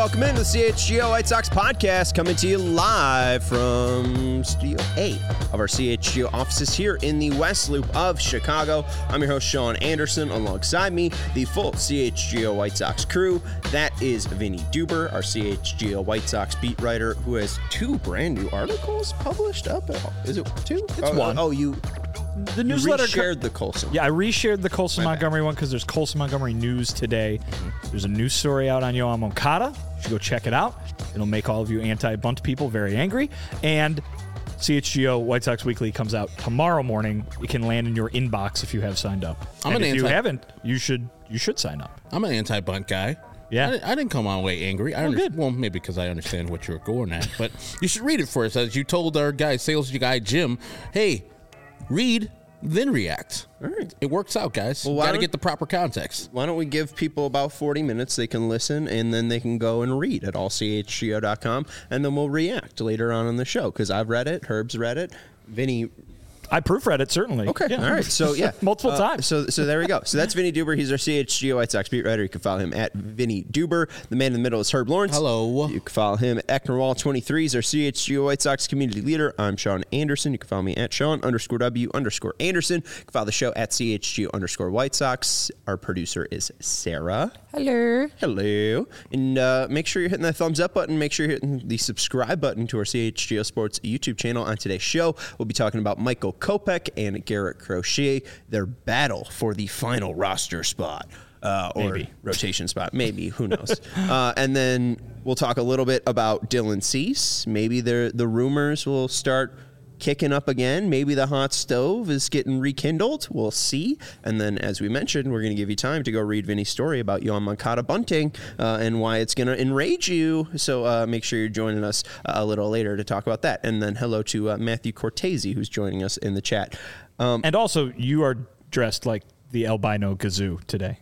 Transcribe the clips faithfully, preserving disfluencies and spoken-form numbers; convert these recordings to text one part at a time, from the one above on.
welcome into the C H G O White Sox podcast, coming to you live from Studio A of our C H G O offices here in the West Loop of Chicago. I'm your host, Sean Anderson. Alongside me, the full C H G O White Sox crew. That is Vinny Duber, our C H G O White Sox beat writer, who has two brand new articles published up. Is it two? It's oh, one. Oh, you... The newsletter shared the Colson. Yeah, I reshared the Colson My Montgomery one because there's Colson Montgomery news today. Mm-hmm. There's a news story out on Yoan Moncada. You should go check it out. It'll make all of you anti-bunt people very angry. And C H G O White Sox Weekly comes out tomorrow morning. It can land in your inbox if you have signed up. I'm and an if anti- you haven't, you should you should sign up. I'm an anti-bunt guy. Yeah. I didn't, I didn't come on way angry. I well, under- good. well, maybe because I understand what you're going at. But you should read it first. As you told our guy, sales guy Jim, hey, read, then react. All right. It works out, guys. Well, Got why to don't- get the proper context. Why don't we give people about forty minutes? They can listen, and then they can go and read at all c h g o dot com, and then we'll react later on in the show, because I've read it, Herb's read it, Vinny... I proofread it, certainly. Okay, Yeah. all right. So, yeah. Multiple uh, times. So so there we go. So that's Vinny Duber. He's our C H G O White Sox beat writer. You can follow him at Vinny Duber. The man in the middle is Herb Lawrence. Hello. You can follow him at Ecknerwall twenty-three. He's our C H G O White Sox community leader. I'm Sean Anderson. You can follow me at Sean underscore W underscore Anderson. You can follow the show at C H G O underscore White Sox. Our producer is Sarah. Hello. Hello. And uh, make sure you're hitting that thumbs up button. Make sure you're hitting the subscribe button to our C H G O Sports YouTube channel. On today's show, we'll be talking about Michael Kopech and Garrett Crochet, their battle for the final roster spot. Uh, or Maybe. rotation spot. Maybe. Who knows? uh, and then we'll talk a little bit about Dylan Cease. Maybe the the rumors will start kicking up again. Maybe the hot stove is getting rekindled. We'll see. And then, as we mentioned, we're going to give you time to go read Vinny's story about Yoan Moncada bunting uh, and why it's going to enrage you. So uh, make sure you're joining us uh, a little later to talk about that. And then hello to uh, Matthew Cortese, who's joining us in the chat. Um, And also, you are dressed like the albino Gazoo today.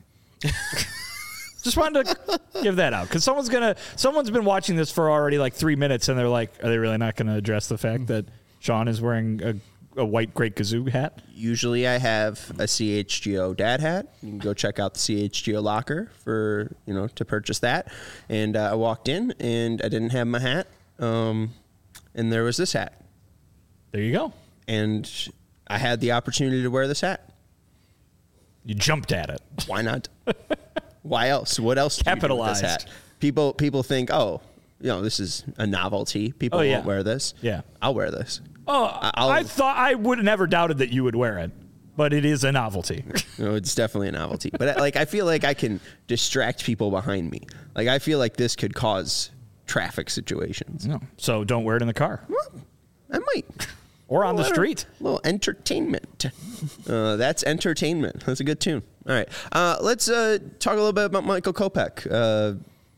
Just wanted to give that out because someone's gonna someone's been watching this for already like three minutes and they're like, are they really not going to address the fact that Sean is wearing a, a white Great Gazoo hat? Usually I have a C H G O dad hat. You can go check out the C H G O locker for, you know, to purchase that. And uh, I walked in and I didn't have my hat. Um, and there was this hat. There you go. And I had the opportunity to wear this hat. You jumped at it. Why not? Why else? What else do you do with Capitalized. this hat? People people think, oh, you know, this is a novelty. People Oh, yeah. won't wear this. Yeah. I'll wear this. Oh, I'll- I thought I would have never doubted that you would wear it, but it is a novelty. You know, it's definitely a novelty. But like, I feel like I can distract people behind me. Like, I feel like this could cause traffic situations. No. So don't wear it in the car Well, I might. or on the Little- street. little entertainment. Uh, that's entertainment. That's a good tune. All right. Uh, let's uh, talk a little bit about Michael Kopech. Uh,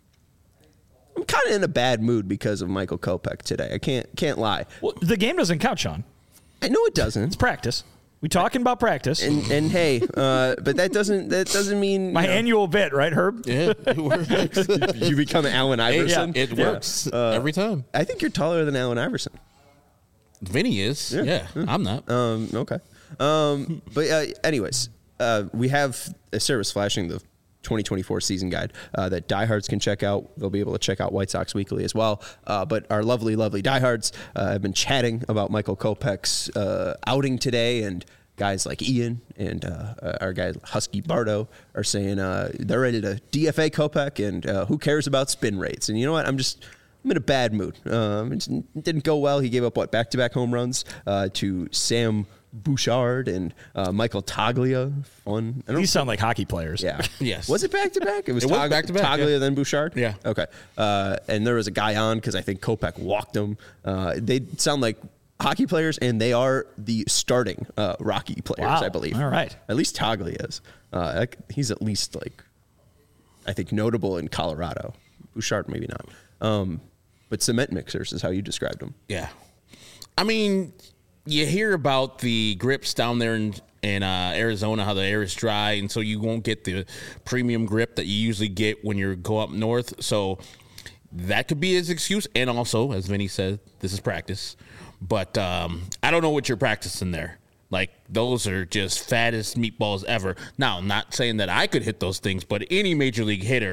I'm kind of in a bad mood because of Michael Kopech today. I can't can't lie. Well, the game doesn't count, Sean. I know it It's doesn't. practice. We talking about practice. And and hey, uh, but that doesn't that doesn't mean My you know, annual bit, right, Herb? Yeah, it works. you become Allen Iverson. It Yeah. works every time. I think you're taller than Allen Iverson. Vinny is. Yeah, I'm not. Um, okay. Um, but uh, anyways, uh, we have a service flashing the twenty twenty-four season guide uh, that diehards can check out. They'll be able to check out White Sox Weekly as well. Uh, but our lovely, lovely diehards uh, have been chatting about Michael Kopech's uh, outing today, and guys like Ian and uh, our guy Husky Bardo are saying uh, they're ready to D F A Kopech, and uh, who cares about spin rates? And you know what? I'm just I'm in a bad mood. Um, it didn't go well. He gave up what back-to-back home runs uh, to Sam Bouchard and uh, Michael Toglia. Fun. I don't These sound like hockey players. Yeah. Yes. Was it back to back? It was, It was Tog- back-to-back, Toglia yeah. then Bouchard. Yeah. Okay. Uh, and there was a guy on because I think Kopech walked him. Uh, they sound like hockey players, and they are the starting uh, Rocky players, Wow. I believe. All right. At least Toglia is. Uh, like, he's at least like, I think notable in Colorado. Bouchard maybe not. Um, but cement mixers is how you described them. Yeah. I mean, you hear about the grips down there in, in uh, Arizona, how the air is dry, and so you won't get the premium grip that you usually get when you go up north. So that could be his excuse. And also, as Vinny said, this is practice. But um, I don't know what you're practicing there. Like, those are just fattest meatballs ever. Now, I'm not saying that I could hit those things, but any major league hitter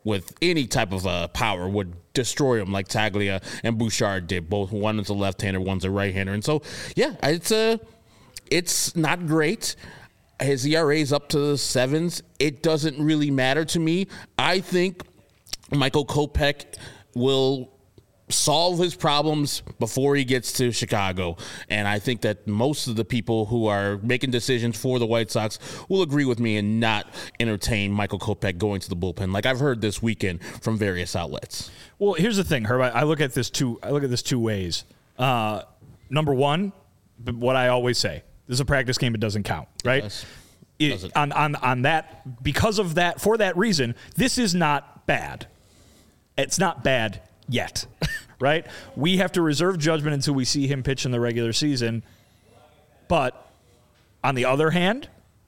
with any type of uh, power would destroy him like Taglia and Bouchard did. Both one is a left-hander, one's a right-hander. And so, yeah, it's a, it's not great. His E R A is up to the sevens. It doesn't really matter to me. I think Michael Kopech will solve his problems before he gets to Chicago. And I think that most of the people who are making decisions for the White Sox will agree with me and not entertain Michael Kopech going to the bullpen, like I've heard this weekend from various outlets. Well, here's the thing, Herb. I I look at this two. I look at this two ways. Uh, number one, what I always say: this is a practice game; it doesn't count, right? Yes. It, on on on that, because of that, for that reason, this is not bad. It's not bad yet, right? We have to reserve judgment until we see him pitch in the regular season. But on the other hand,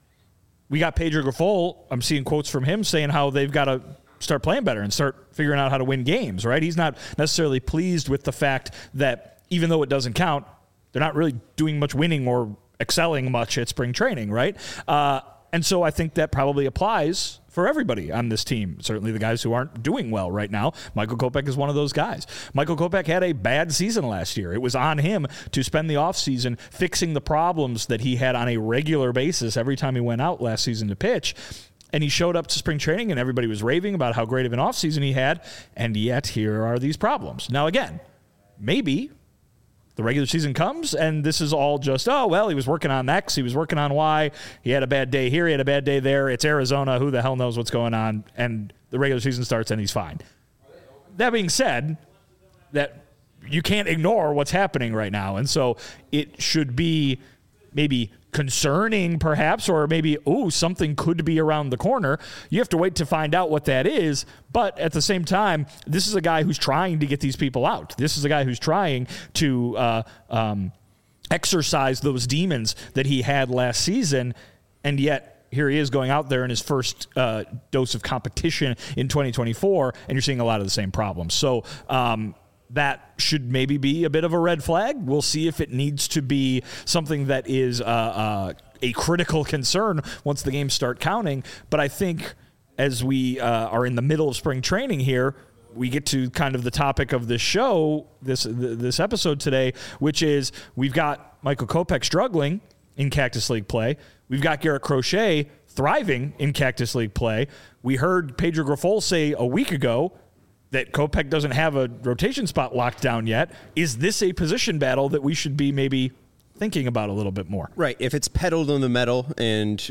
we got Pedro Grifol. I'm seeing quotes from him saying how they've got to start playing better and start figuring out how to win games, right? He's not necessarily pleased with the fact that even though it doesn't count, they're not really doing much winning or excelling much at spring training, right? Uh, and so I think that probably applies for everybody on this team. Certainly the guys who aren't doing well right now. Michael Kopech is one of those guys. Michael Kopech had a bad season last year. It was on him to spend the offseason fixing the problems that he had on a regular basis every time he went out last season to pitch. And he showed up to spring training and everybody was raving about how great of an offseason he had. And yet here are these problems. Now, again, maybe the regular season comes and this is all just, oh, well, he was working on X, he was working on Y, he had a bad day here, he had a bad day there, it's Arizona, who the hell knows what's going on, and the regular season starts and he's fine. That being said, that you can't ignore what's happening right now, and so it should be maybe concerning perhaps, or maybe, oh, something could be around the corner. You have to wait to find out what that is. But at the same time, this is a guy who's trying to get these people out. This is a guy who's trying to uh, um, exercise those demons that he had last season. And yet here he is going out there in his first uh, dose of competition in twenty twenty-four, and you're seeing a lot of the same problems. So, um, that should maybe be a bit of a red flag. We'll see if it needs to be something that is uh, uh, a critical concern once the games start counting. But I think as we uh, are in the middle of spring training here, we get to kind of the topic of this show, this this episode today, which is we've got Michael Kopech struggling in Cactus League play. We've got Garrett Crochet thriving in Cactus League play. We heard Pedro Grifol say a week ago that Kopech doesn't have a rotation spot locked down yet. Is this a position battle that we should be maybe thinking about a little bit more? Right. If it's pedaled on the metal and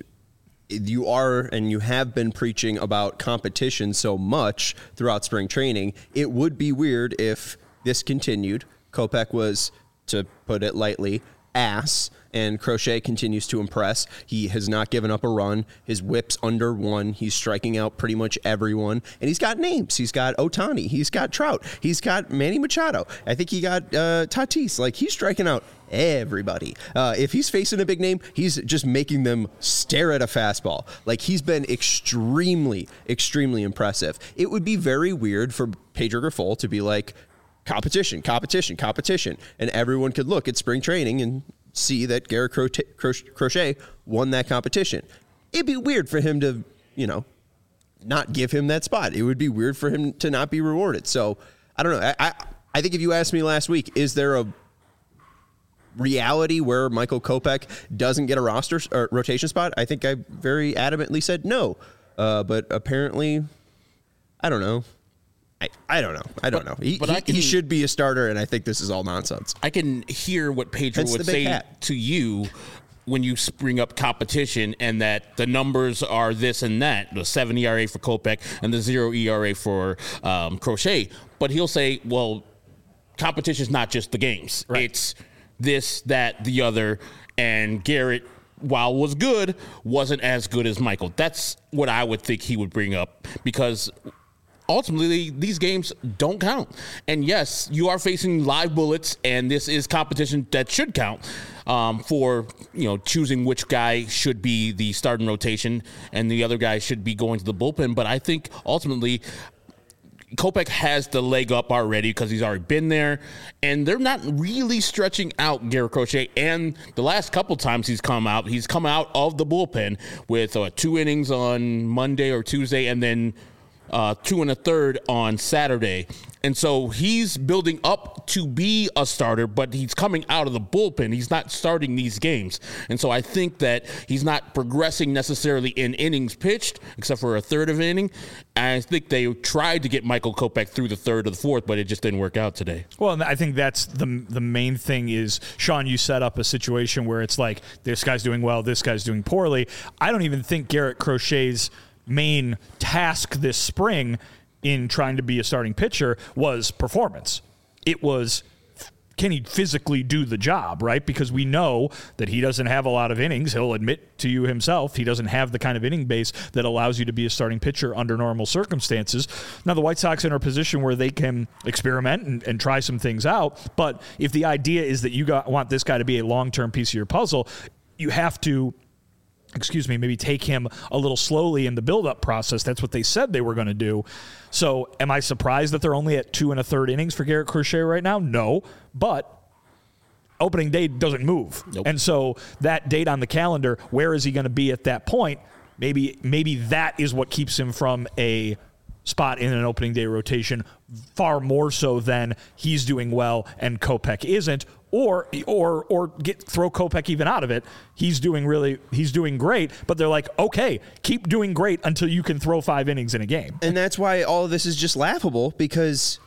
you are and you have been preaching about competition so much throughout spring training, it would be weird if this continued. Kopech was, to put it lightly, ass, and Crochet continues to impress. He has not given up a run. His whip's under one. He's striking out pretty much everyone. And he's got names. He's got Ohtani. He's got Trout. He's got Manny Machado. I think he got uh, Tatis. Like, he's striking out everybody. Uh, if he's facing a big name, he's just making them stare at a fastball. Like, he's been extremely, extremely impressive. It would be very weird for Pedro Grifol to be like, competition, competition, competition. And everyone could look at spring training and see that Garrett Crochet won that competition. It'd be weird for him to, you know, not give him that spot. It would be weird for him to not be rewarded. So, I don't know. I, I, I think if you asked me last week, is there a reality where Michael Kopech doesn't get a roster or rotation spot? I think I very adamantly said no. Uh, but apparently, I don't know. I, I don't know. I don't but, know. He, but he, I can, he should be a starter, and I think this is all nonsense. I can hear what Pedro Hence would say hat. to you when you bring up competition and that the numbers are this and that, the seven E R A for Kopech and the zero E R A for um, Crochet. But he'll say, well, competition is not just the games. Right. It's this, that, the other, and Garrett, while was good, wasn't as good as Michael. That's what I would think he would bring up, because ultimately, these games don't count. And yes, you are facing live bullets, and this is competition that should count um, for, you know, choosing which guy should be the starting rotation and the other guy should be going to the bullpen. But I think ultimately Kopech has the leg up already because he's already been there, and they're not really stretching out Garrett Crochet. And the last couple times he's come out, he's come out of the bullpen with uh, two innings on Monday or Tuesday, and then uh, two and a third on Saturday. And so he's building up to be a starter, but he's coming out of the bullpen. He's not starting these games. And so I think that he's not progressing necessarily in innings pitched, except for a third of an inning. And I think they tried to get Michael Kopech through the third or the fourth, but it just didn't work out today. Well, and I think that's the the main thing is, Sean, you set up a situation where it's like, this guy's doing well, this guy's doing poorly. I don't even think Garrett Crochet's main task this spring in trying to be a starting pitcher was performance. It was, can he physically do the job, right? Because we know that he doesn't have a lot of innings. He'll admit to you himself he doesn't have the kind of inning base that allows you to be a starting pitcher under normal circumstances. Now, the White Sox are in a position where they can experiment and, and try some things out, but if the idea is that you got, want this guy to be a long-term piece of your puzzle, you have to excuse me, maybe take him a little slowly in the build-up process. That's what they said they were going to do. So am I surprised that they're only at two and a third innings for Garrett Crochet right now? No, but opening day doesn't move. Nope. And so that date on the calendar, where is he going to be at that point? Maybe maybe that is what keeps him from a spot in an opening day rotation far more so than he's doing well and Kopech isn't, or or or get throw Kopech even out of it. He's doing really he's doing great, but they're like, okay, keep doing great until you can throw five innings in a game. And that's why all of this is just laughable, because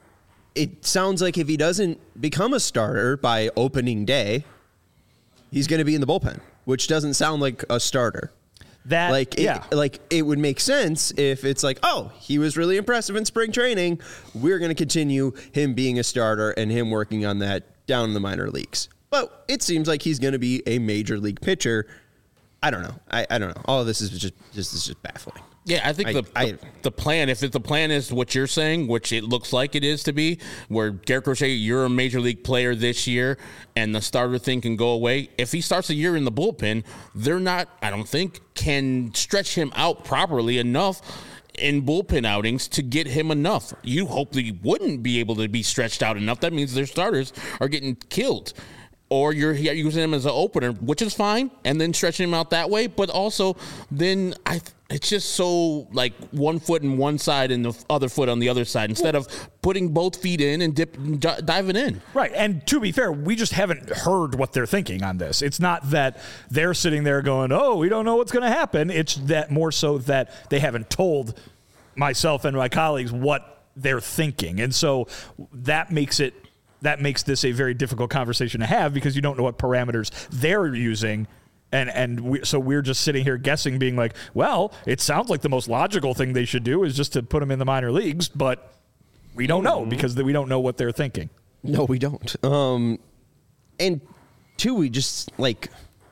it sounds like if he doesn't become a starter by opening day, he's going to be in the bullpen, which doesn't sound like a starter. That, like, it, yeah. like it would make sense if it's like, oh, he was really impressive in spring training. We're going to continue him being a starter and him working on that down in the minor leagues. But it seems like he's going to be a major league pitcher. I don't know. I, I don't know. All of this is just this is just baffling. Yeah, I think I, the, I, the the plan, if the plan is what you're saying, which it looks like it is to be, where Garrett Crochet, you're a major league player this year, and the starter thing can go away. If he starts a year in the bullpen, they're not, I don't think, can stretch him out properly enough in bullpen outings to get him enough. You hopefully wouldn't be able to be stretched out enough. That means their starters are getting killed. Or you're using him as an opener, which is fine, and then stretching him out that way. But also, then I, it's just so like one foot in one side and the other foot on the other side, instead of putting both feet in and dip, d- diving in. Right. And to be fair, we just haven't heard what they're thinking on this. It's not that they're sitting there going, oh, we don't know what's going to happen. It's that more so that they haven't told myself and my colleagues what they're thinking. And so that makes it That makes this a very difficult conversation to have, because you don't know what parameters they're using. And and we, so we're just sitting here guessing, being like, well, it sounds like the most logical thing they should do is just to put him in the minor leagues. But we don't know, because we don't know what they're thinking. No, we don't. Um, and two, we just like,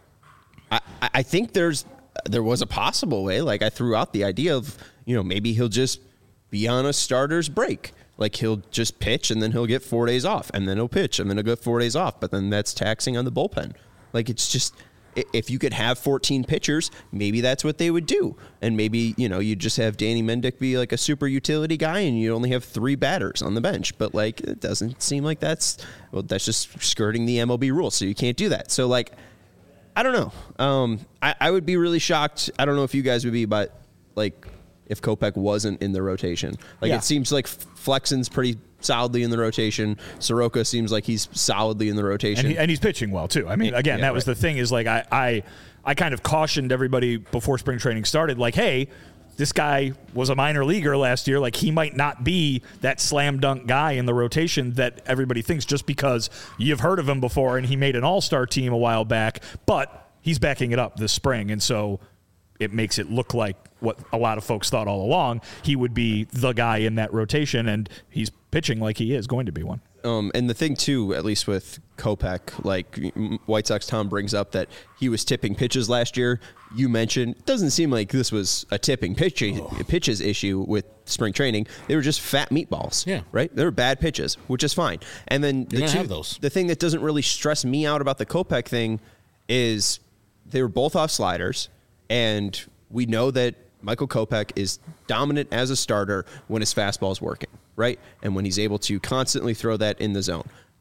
I, I think there's, there was a possible way. Like I threw out the idea of, you know, maybe he'll just be on a starter's break. Like he'll just pitch and then he'll get four days off, and then he'll pitch and then he'll get four days off. But then that's taxing on the bullpen. Like it's just, if you could have fourteen pitchers, maybe that's what they would do. And maybe, you know, you just have Danny Mendick be like a super utility guy and you only have three batters on the bench. But like, it doesn't seem like that's, well, that's just skirting the M L B rules. So you can't do that. So like, I don't know. Um, I, I would be really shocked. I don't know if you guys would be, but like, if Kopech wasn't in the rotation. Like yeah. It seems like Flexen's pretty solidly in the rotation. Soroka seems like he's solidly in the rotation. And, he, and he's pitching well, too. I mean, again, yeah, that was right. the thing is like I, I, I kind of cautioned everybody before spring training started, like, hey, this guy was a minor leaguer last year. Like, he might not be that slam dunk guy in the rotation that everybody thinks just because you've heard of him before and he made an all-star team a while back. But he's backing it up this spring. And so it makes it look like what a lot of folks thought all along. He would be the guy in that rotation, and he's pitching like he is going to be one. Um, and the thing, too, at least with Kopech, like White Sox Tom brings up that he was tipping pitches last year. You mentioned, it doesn't seem like this was a tipping pitch, oh. pitches issue with spring training. They were just fat meatballs, yeah. right? They were bad pitches, which is fine. And then the, two, have those. the thing that doesn't really stress me out about the Kopech thing is they were both off sliders, and we know that Michael Kopech is dominant as a starter when his fastball is working, right? And when he's able to constantly throw that in the zone.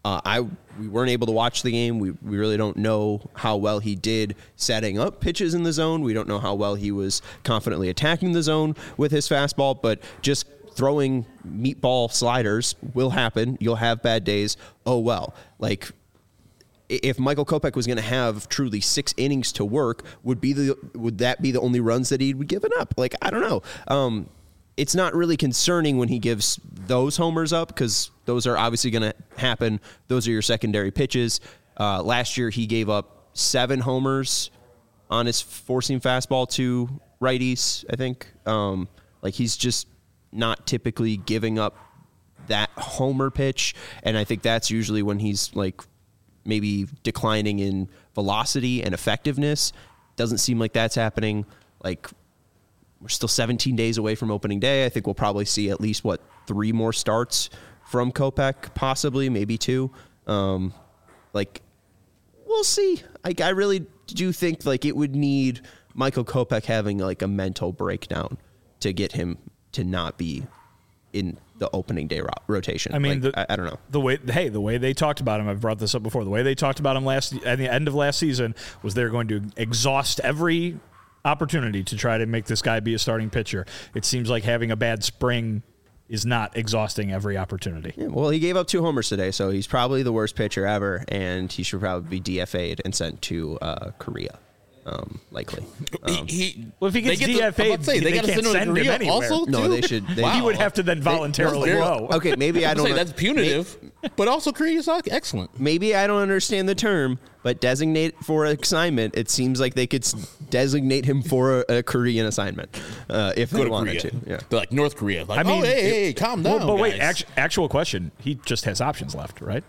Uh, I we weren't able to watch the game. We we really don't know how well he did setting up pitches in the zone. We don't know how well he was confidently attacking the zone with his fastball. But just throwing meatball sliders will happen. You'll have bad days. Oh well. Like if Michael Kopech was going to have truly six innings to work, would be the would that be the only runs that he'd be given up? Like I don't know. Um, It's not really concerning when he gives those homers up because those are obviously going to happen. Those are your secondary pitches. Uh, last year, he gave up seven homers on his four-seam fastball to righties, I think. Um, like, he's just not typically giving up that homer pitch, and I think that's usually when he's, like, maybe declining in velocity and effectiveness. Doesn't seem like that's happening. Like, we're still seventeen days away from opening day. I think we'll probably see at least, what, three more starts from Kopech, possibly, maybe two. Um, like, we'll see. Like, I really do think, like, it would need Michael Kopech having, like, a mental breakdown to get him to not be in the opening day ro- rotation. I mean, like, the, I, I don't know. The way, hey, the way they talked about him, I've brought this up before. The way they talked about him last at the end of last season was they're going to exhaust every opportunity to try to make this guy be a starting pitcher. It seems like having a bad spring is not exhausting every opportunity. Yeah, well, he gave up two homers today, so he's probably the worst pitcher ever, and he should probably be D F A'd and sent to uh, Korea. Um, likely. Um, he, he, well, if he gets D F A'd, say, they, they gotta can't send, send him him anywhere. Also, no, too? they should. They, Wow. He would have to then voluntarily They, go. Okay, maybe I don't. say that's punitive, but also Korea's excellent. Maybe I don't understand the term, but designate for an assignment. It seems like they could s- designate him for a, a Korean assignment uh, if Go they to wanted Korea. to. Yeah. They're like North Korea. Like, I mean, oh, hey, it- hey, calm down, Well, but wait, guys. actu- actual question. He just has options left, right?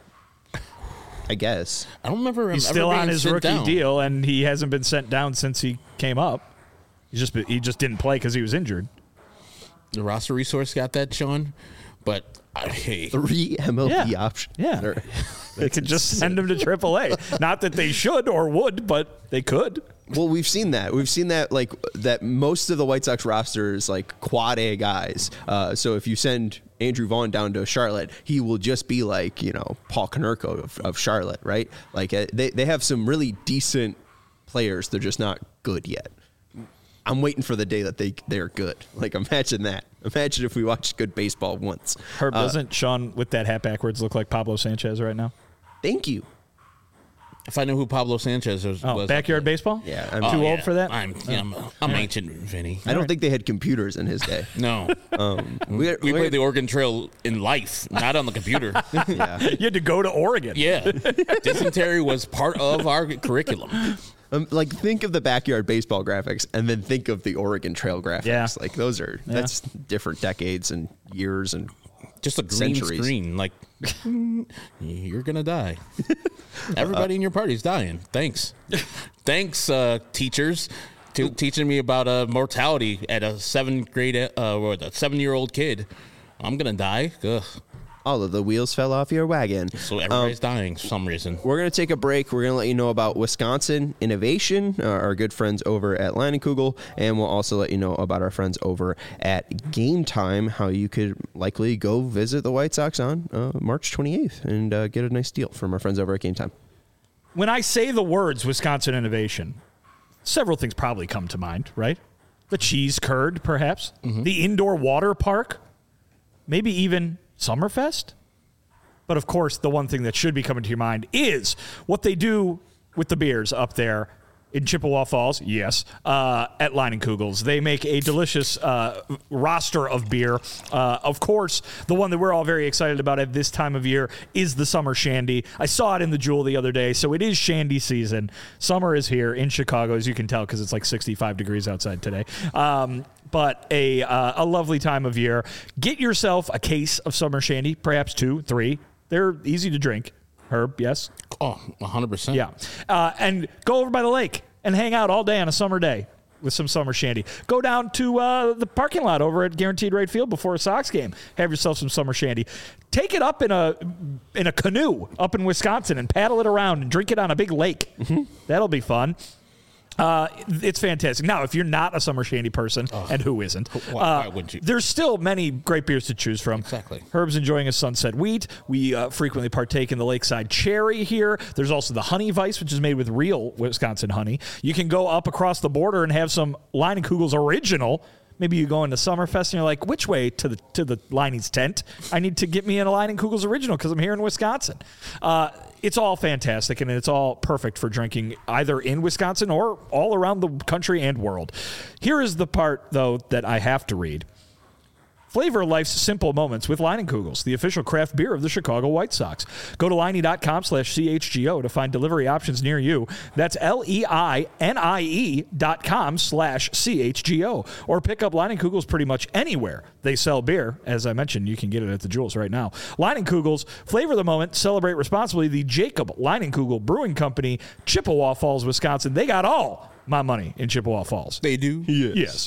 I guess. I don't remember him He's ever still being on his sent rookie down. deal, and he hasn't been sent down since he came up. He just he just didn't play because he was injured. The roster resource got that, Sean. But uh, hey, Three M L B Yeah. options. Yeah. Or- They could just send him to triple A. Not that they should or would, but they could. Well, we've seen that. We've seen that, like, that most of the White Sox roster is, like, quad A guys. Uh, so if you send Andrew Vaughn down to Charlotte, he will just be like, you know, Paul Konerko of, of Charlotte, right? Like, uh, they, they have some really decent players. They're just not good yet. I'm waiting for the day that they, they're good. Like, imagine that. Imagine if we watched good baseball once. Herb, Uh, doesn't Sean, with that hat backwards, look like Pablo Sanchez right now? Thank you. if I knew who Pablo Sanchez was, Oh, was backyard baseball? Yeah, I'm I'm- too Oh, old yeah. for that? I'm, yeah, I'm, I'm ancient, Vinny. I don't think they had computers in his day. No, Um, we we're- we're- played the Oregon Trail in life, not on the computer. yeah. You had to go to Oregon. Yeah, dysentery was part of our curriculum. Um, like, think of the backyard baseball graphics and then think of the Oregon Trail graphics. Yeah. Like, those are, that's different decades and years and Just a green Centuries. screen, like you're gonna die. Everybody in your party's dying. Thanks, thanks, uh, teachers, to teaching me about uh, mortality at a seventh grade, uh, or a seven-year-old kid. I'm gonna die. Ugh. all of the wheels fell off your wagon. So everybody's dying for some reason. We're going to take a break. We're going to let you know about Wisconsin Innovation, uh, our good friends over at Leinenkugel, and we'll also let you know about our friends over at Game Time, how you could likely go visit the White Sox on uh, March twenty-eighth and uh, get a nice deal from our friends over at Game Time. When I say the words Wisconsin Innovation, several things probably come to mind, right? The cheese curd, perhaps. Mm-hmm. The indoor water park. Maybe even Summerfest. But of course, the one thing that should be coming to your mind is what they do with the beers up there in Chippewa Falls. Yes, uh, at Leinenkugel's. They make a delicious uh, roster of beer. Uh, of course, the one that we're all very excited about at this time of year is the Summer Shandy. I saw it in the Jewel the other day, so it is Shandy season. Summer is here in Chicago, as you can tell, because it's like sixty-five degrees outside today. Um, but a uh, a lovely time of year. Get yourself a case of Summer Shandy, perhaps two, three. They're easy to drink. Herb, yes? Oh, one hundred percent. Yeah. Uh, and go over by the lake and hang out all day on a summer day with some Summer Shandy. Go down to uh, the parking lot over at Guaranteed Rate Field before a Sox game. Have yourself some Summer Shandy. Take it up in a in a canoe up in Wisconsin and paddle it around and drink it on a big lake. Mm-hmm. That'll be fun. Uh, it's fantastic. Now, if you're not a Summer Shandy person, oh. and who isn't, why, uh, why wouldn't you? There's still many great beers to choose from. Exactly. Herb's enjoying a Sunset Wheat. We uh, frequently partake in the Lakeside Cherry here. There's also the Honey Weiss, which is made with real Wisconsin honey. You can go up across the border and have some Leinenkugel's Original. Maybe you go into Summerfest and you're like, which way to the to the Liney's tent? I need to get me in a Leinenkugel's Original because I'm here in Wisconsin. Uh, it's all fantastic, and it's all perfect for drinking either in Wisconsin or all around the country and world. Here is the part, though, that I have to read. Flavor life's simple moments with Leinenkugel's, the official craft beer of the Chicago White Sox. Go to Leinie.com slash CHGO to find delivery options near you. That's L-E-I-N-I-E dot com slash C-H-G-O. Or pick up Leinenkugel's pretty much anywhere they sell beer. As I mentioned, you can get it at the Jewels right now. Leinenkugel's, flavor the moment, celebrate responsibly. The Jacob Leinenkugel Brewing Company, Chippewa Falls, Wisconsin. They got all my money in Chippewa Falls. They do? Yes. Yes.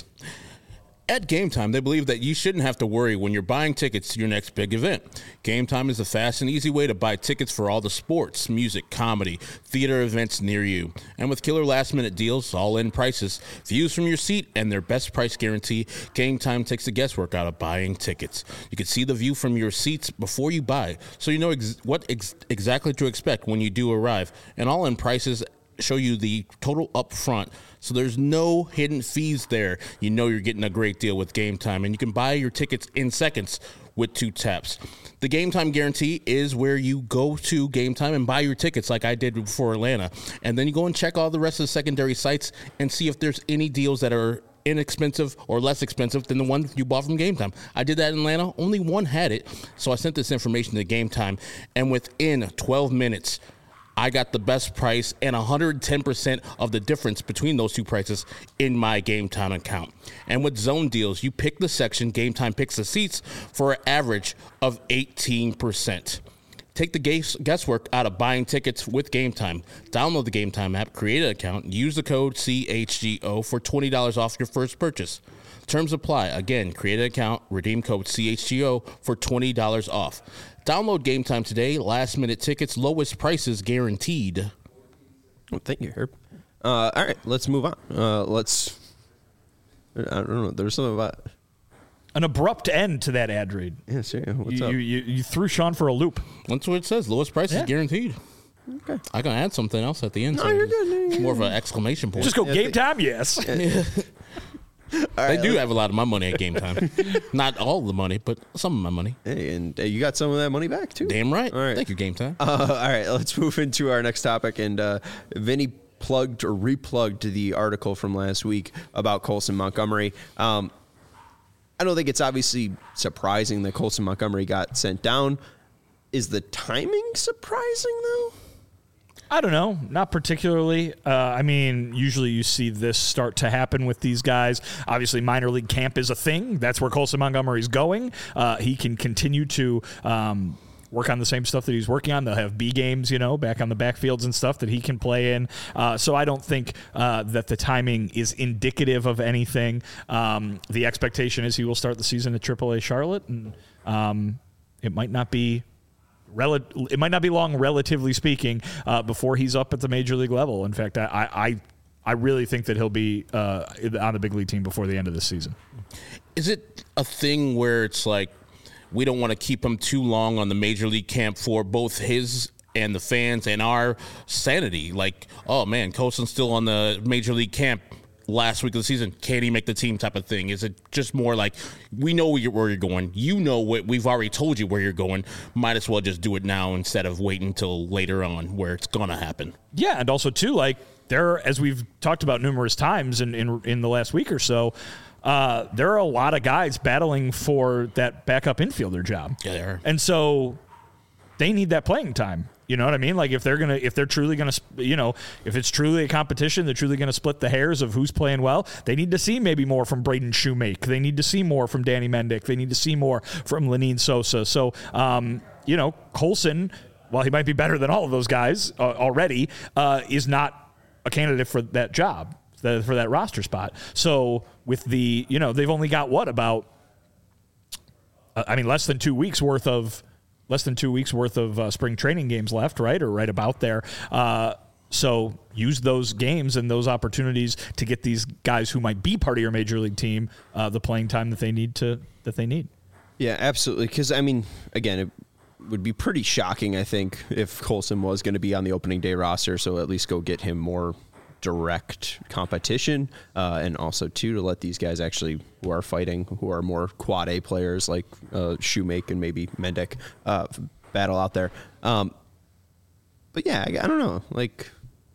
At Game Time, they believe that you shouldn't have to worry when you're buying tickets to your next big event. Game Time is a fast and easy way to buy tickets for all the sports, music, comedy, theater events near you. And with killer last-minute deals, all-in prices, views from your seat, and their best price guarantee, Game Time takes the guesswork out of buying tickets. You can see the view from your seats before you buy, so you know ex- what ex- exactly to expect when you do arrive. And all-in prices show you the total up front, so there's no hidden fees there. You know you're getting a great deal with Game Time, and you can buy your tickets in seconds with two taps. The Game Time guarantee is where you go to Game Time and buy your tickets like I did for Atlanta, and then you go and check all the rest of the secondary sites and see if there's any deals that are inexpensive or less expensive than the one you bought from Game Time. I did that in Atlanta. Only one had it, so I sent this information to Game Time, and within twelve minutes, I got the best price and one hundred ten percent of the difference between those two prices in my Game Time account. And with zone deals, you pick the section, Game Time picks the seats for an average of eighteen percent. Take the guesswork out of buying tickets with Game Time. Download the Game Time app, create an account, and use the code C H G O for twenty dollars off your first purchase. Terms apply. Again, create an account, redeem code C H G O for twenty dollars off. Download Game Time today. Last minute tickets, lowest prices guaranteed. Well, thank you, Herb. Uh, all right, let's move on. Uh, let's. I don't know. There's something about an abrupt end to that ad read. Yeah, sure. What's you, up? You, you, you threw Sean for a loop. That's what it says. Lowest prices Yeah. guaranteed. Okay. I can add something else at the end. No, so you're good. It's more of an exclamation point. Just go Yeah, Game th- Time, yes. They do have a lot of my money at Game Time. Not all the money, but some of my money. Hey, and uh, you got some of that money back too. Damn right. All right. Thank you, Game Time. Uh, all right, let's move into our next topic. And uh, Vinny plugged or replugged the article from last week about Colson Montgomery. Um, I don't think it's obviously surprising that Colson Montgomery got sent down. Is the timing surprising though? I don't know. Not particularly. Uh, I mean, usually you see this start to happen with these guys. Obviously, minor league camp is a thing. That's where Colson Montgomery's going. Uh, he can continue to um, work on the same stuff that he's working on. They'll have B games, you know, back on the backfields and stuff that he can play in. Uh, so I don't think uh, that the timing is indicative of anything. Um, the expectation is he will start the season at triple A Charlotte, and um, it might not be Rel- it might not be long, relatively speaking, uh, before he's up at the major league level. In fact, I I, I really think that he'll be uh, on the big league team before the end of this season. Is it a thing where it's like we don't want to keep him too long on the major league camp for both his and the fans and our sanity? Like, oh man, Colson's still on the major league camp last week of the season. Can he make the team type of thing? Is it just more like we know where you're, where you're going? You know what we've already told you where you're going. Might as well just do it now instead of waiting until later on where it's going to happen. Yeah, and also too, like there, as we've talked about numerous times in in, in the last week or so, uh, there are a lot of guys battling for that backup infielder job. Yeah, they are. And so they need that playing time. You know what I mean? Like if they're gonna, if they're truly gonna, you know, if it's truly a competition, they're truly gonna split the hairs of who's playing well. They need to see maybe more from Braden Shoemake. They need to see more from Danny Mendick. They need to see more from Lenine Sosa. So, um, you know, Colson, while he might be better than all of those guys uh, already, uh, is not a candidate for that job, the, for that roster spot. So with the, you know, they've only got what about, uh, I mean, less than two weeks worth of. Less than two weeks worth of uh, spring training games left, right, or right about there. Uh, So use those games and those opportunities to get these guys who might be part of your major league team uh, the playing time that they need to that they need. Yeah, absolutely. Because I mean, again, it would be pretty shocking, I think, if Colson was going to be on the opening day roster. So at least go get him more direct competition, uh, and also too to let these guys actually who are fighting, who are more quad A players like uh, Shoemake and maybe Mendick, uh, battle out there. Um, but yeah, I, I don't know, like.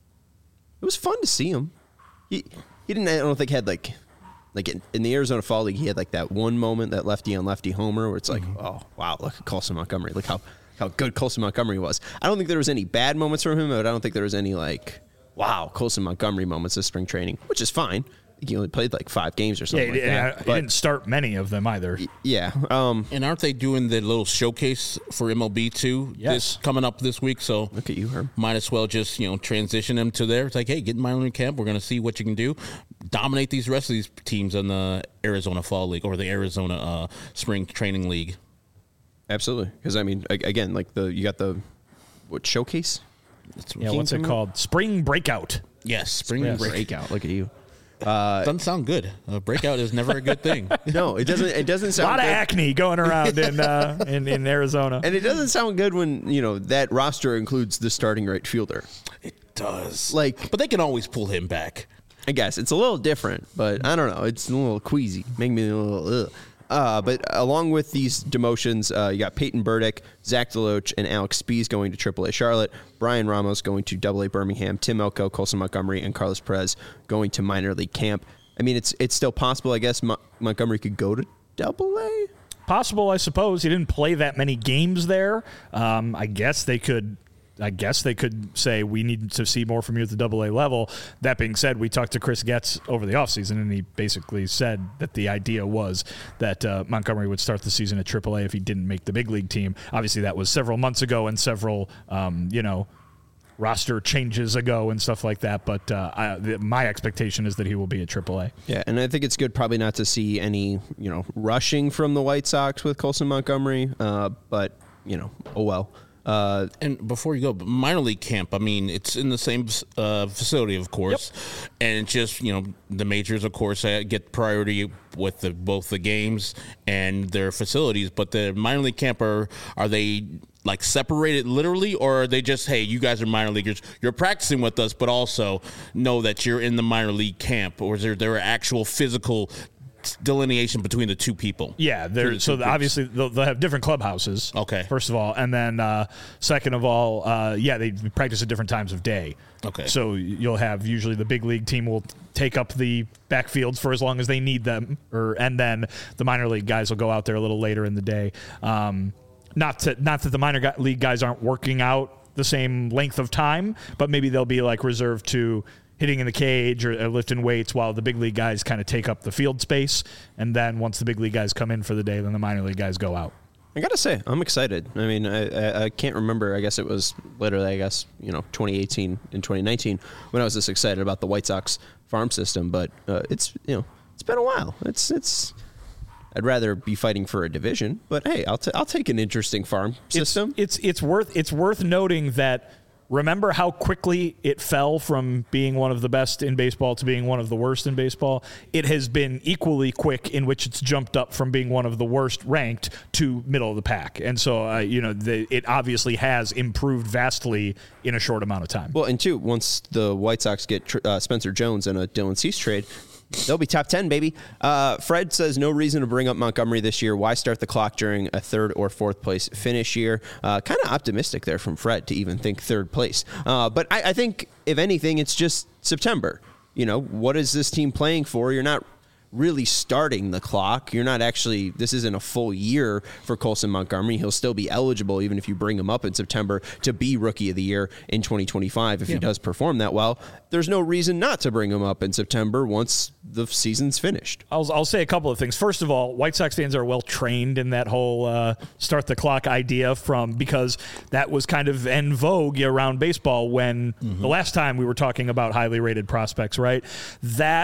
It was fun to see him. He he didn't. I don't think had like like in, in the Arizona Fall League. He had like that one moment, that lefty on lefty homer, where it's like, mm-hmm. oh wow, look at Colson Montgomery. Look how how good Colson Montgomery was. I don't think there was any bad moments from him, but I don't think there was any like wow Colson Montgomery moments of spring training, which is fine. He only played like five games or something. Yeah, like and that. he But, didn't start many of them either. yeah. Um, And aren't they doing the little showcase for M L B too? Yes. This coming up this week. So look at you, Herb. might as well just, you know, transition them to there. It's like, hey, get in minor league camp. We're going to see what you can do. Dominate these rest of these teams in the Arizona Fall League or the Arizona uh, Spring Training League. Absolutely, because I mean, again, like the you got the what showcase? That's Yeah, what's it called? Spring Breakout. Yes, Spring Yes. Break. Breakout. Look at you. Doesn't sound good. A breakout is never a good thing. No, it doesn't. It doesn't A sound lot good. of acne going around in, uh, in in Arizona. And it doesn't sound good when, you know, that roster includes the starting right fielder. It does. Like- but they can always pull him back. I guess it's a little different, but I don't know. It's a little queasy. Make me a little ugh. Uh, but along with these demotions, uh, you got Peyton Burdick, Zach DeLoach, and Alex Spees going to triple A Charlotte, Brian Ramos going to double A Birmingham, Tim Elko, Colson Montgomery, and Carlos Perez going to minor league camp. I mean, it's it's still possible, I guess, Mo- Montgomery could go to double A. Possible, I suppose. He didn't play that many games there. Um, I guess they could. I guess they could say we need to see more from you at the double A level. That being said, we talked to Chris Getz over the offseason, and he basically said that the idea was that uh, Montgomery would start the season at triple A if he didn't make the big league team. Obviously, that was several months ago and several, um, you know, roster changes ago and stuff like that. But uh, I, the, my expectation is that he will be at triple A. Yeah, and I think it's good probably not to see any, you know, rushing from the White Sox with Colson Montgomery, uh, but, you know, oh well. Uh, And before you go, minor league camp, I mean, it's in the same uh, facility, of course. Yep. And it's just, you know, the majors, of course, uh, get priority with the, both the games and their facilities. But the minor league camp, are, are they like separated literally, or are they just, hey, you guys are minor leaguers, you're practicing with us, but also know that you're in the minor league camp? Or is there, there actual physical delineation between the two people? Yeah, they're, the so two obviously they'll, they'll have different clubhouses. Okay. First of all, and then uh, second of all, uh, yeah, they practice at different times of day. Okay. So you'll have usually the big league team will take up the backfields for as long as they need them, or and then the minor league guys will go out there a little later in the day. Um, not to not that the minor league guys aren't working out the same length of time, but maybe they'll be like reserved to hitting in the cage or, or lifting weights while the big league guys kind of take up the field space. And then once the big league guys come in for the day, then the minor league guys go out. I gotta say, I'm excited. I mean, I, I, I can't remember. I guess it was literally, I guess, you know, twenty eighteen and twenty nineteen when I was this excited about the White Sox farm system. But uh, it's, you know, it's been a while. It's, it's. I'd rather be fighting for a division, but hey, I'll t- I'll take an interesting farm system. It's, it's it's worth it's worth noting that. Remember how quickly it fell from being one of the best in baseball to being one of the worst in baseball? It has been equally quick in which it's jumped up from being one of the worst ranked to middle of the pack. And so, uh, you know, the, it obviously has improved vastly in a short amount of time. Well, and two, once the White Sox get tr- uh, Spencer Jones and a Dylan Cease trade, they'll be top ten, baby. Uh, Fred says no reason to bring up Montgomery this year. Why start the clock during a third or fourth place finish year? Uh, kind of optimistic there from Fred to even think third place. Uh, but I, I think, if anything, it's just September. You know, what is this team playing for? You're not really starting the clock. You're not actually, this isn't a full year for Colson Montgomery. He'll still be eligible, even if you bring him up in September, to be Rookie of the Year in twenty twenty-five if yeah. he does perform that well. There's no reason not to bring him up in September once the season's finished. I'll, I'll say a couple of things. First of all, White Sox fans are well trained in that whole uh, start the clock idea from because that was kind of en vogue around baseball when mm-hmm. the last time we were talking about highly rated prospects, right? That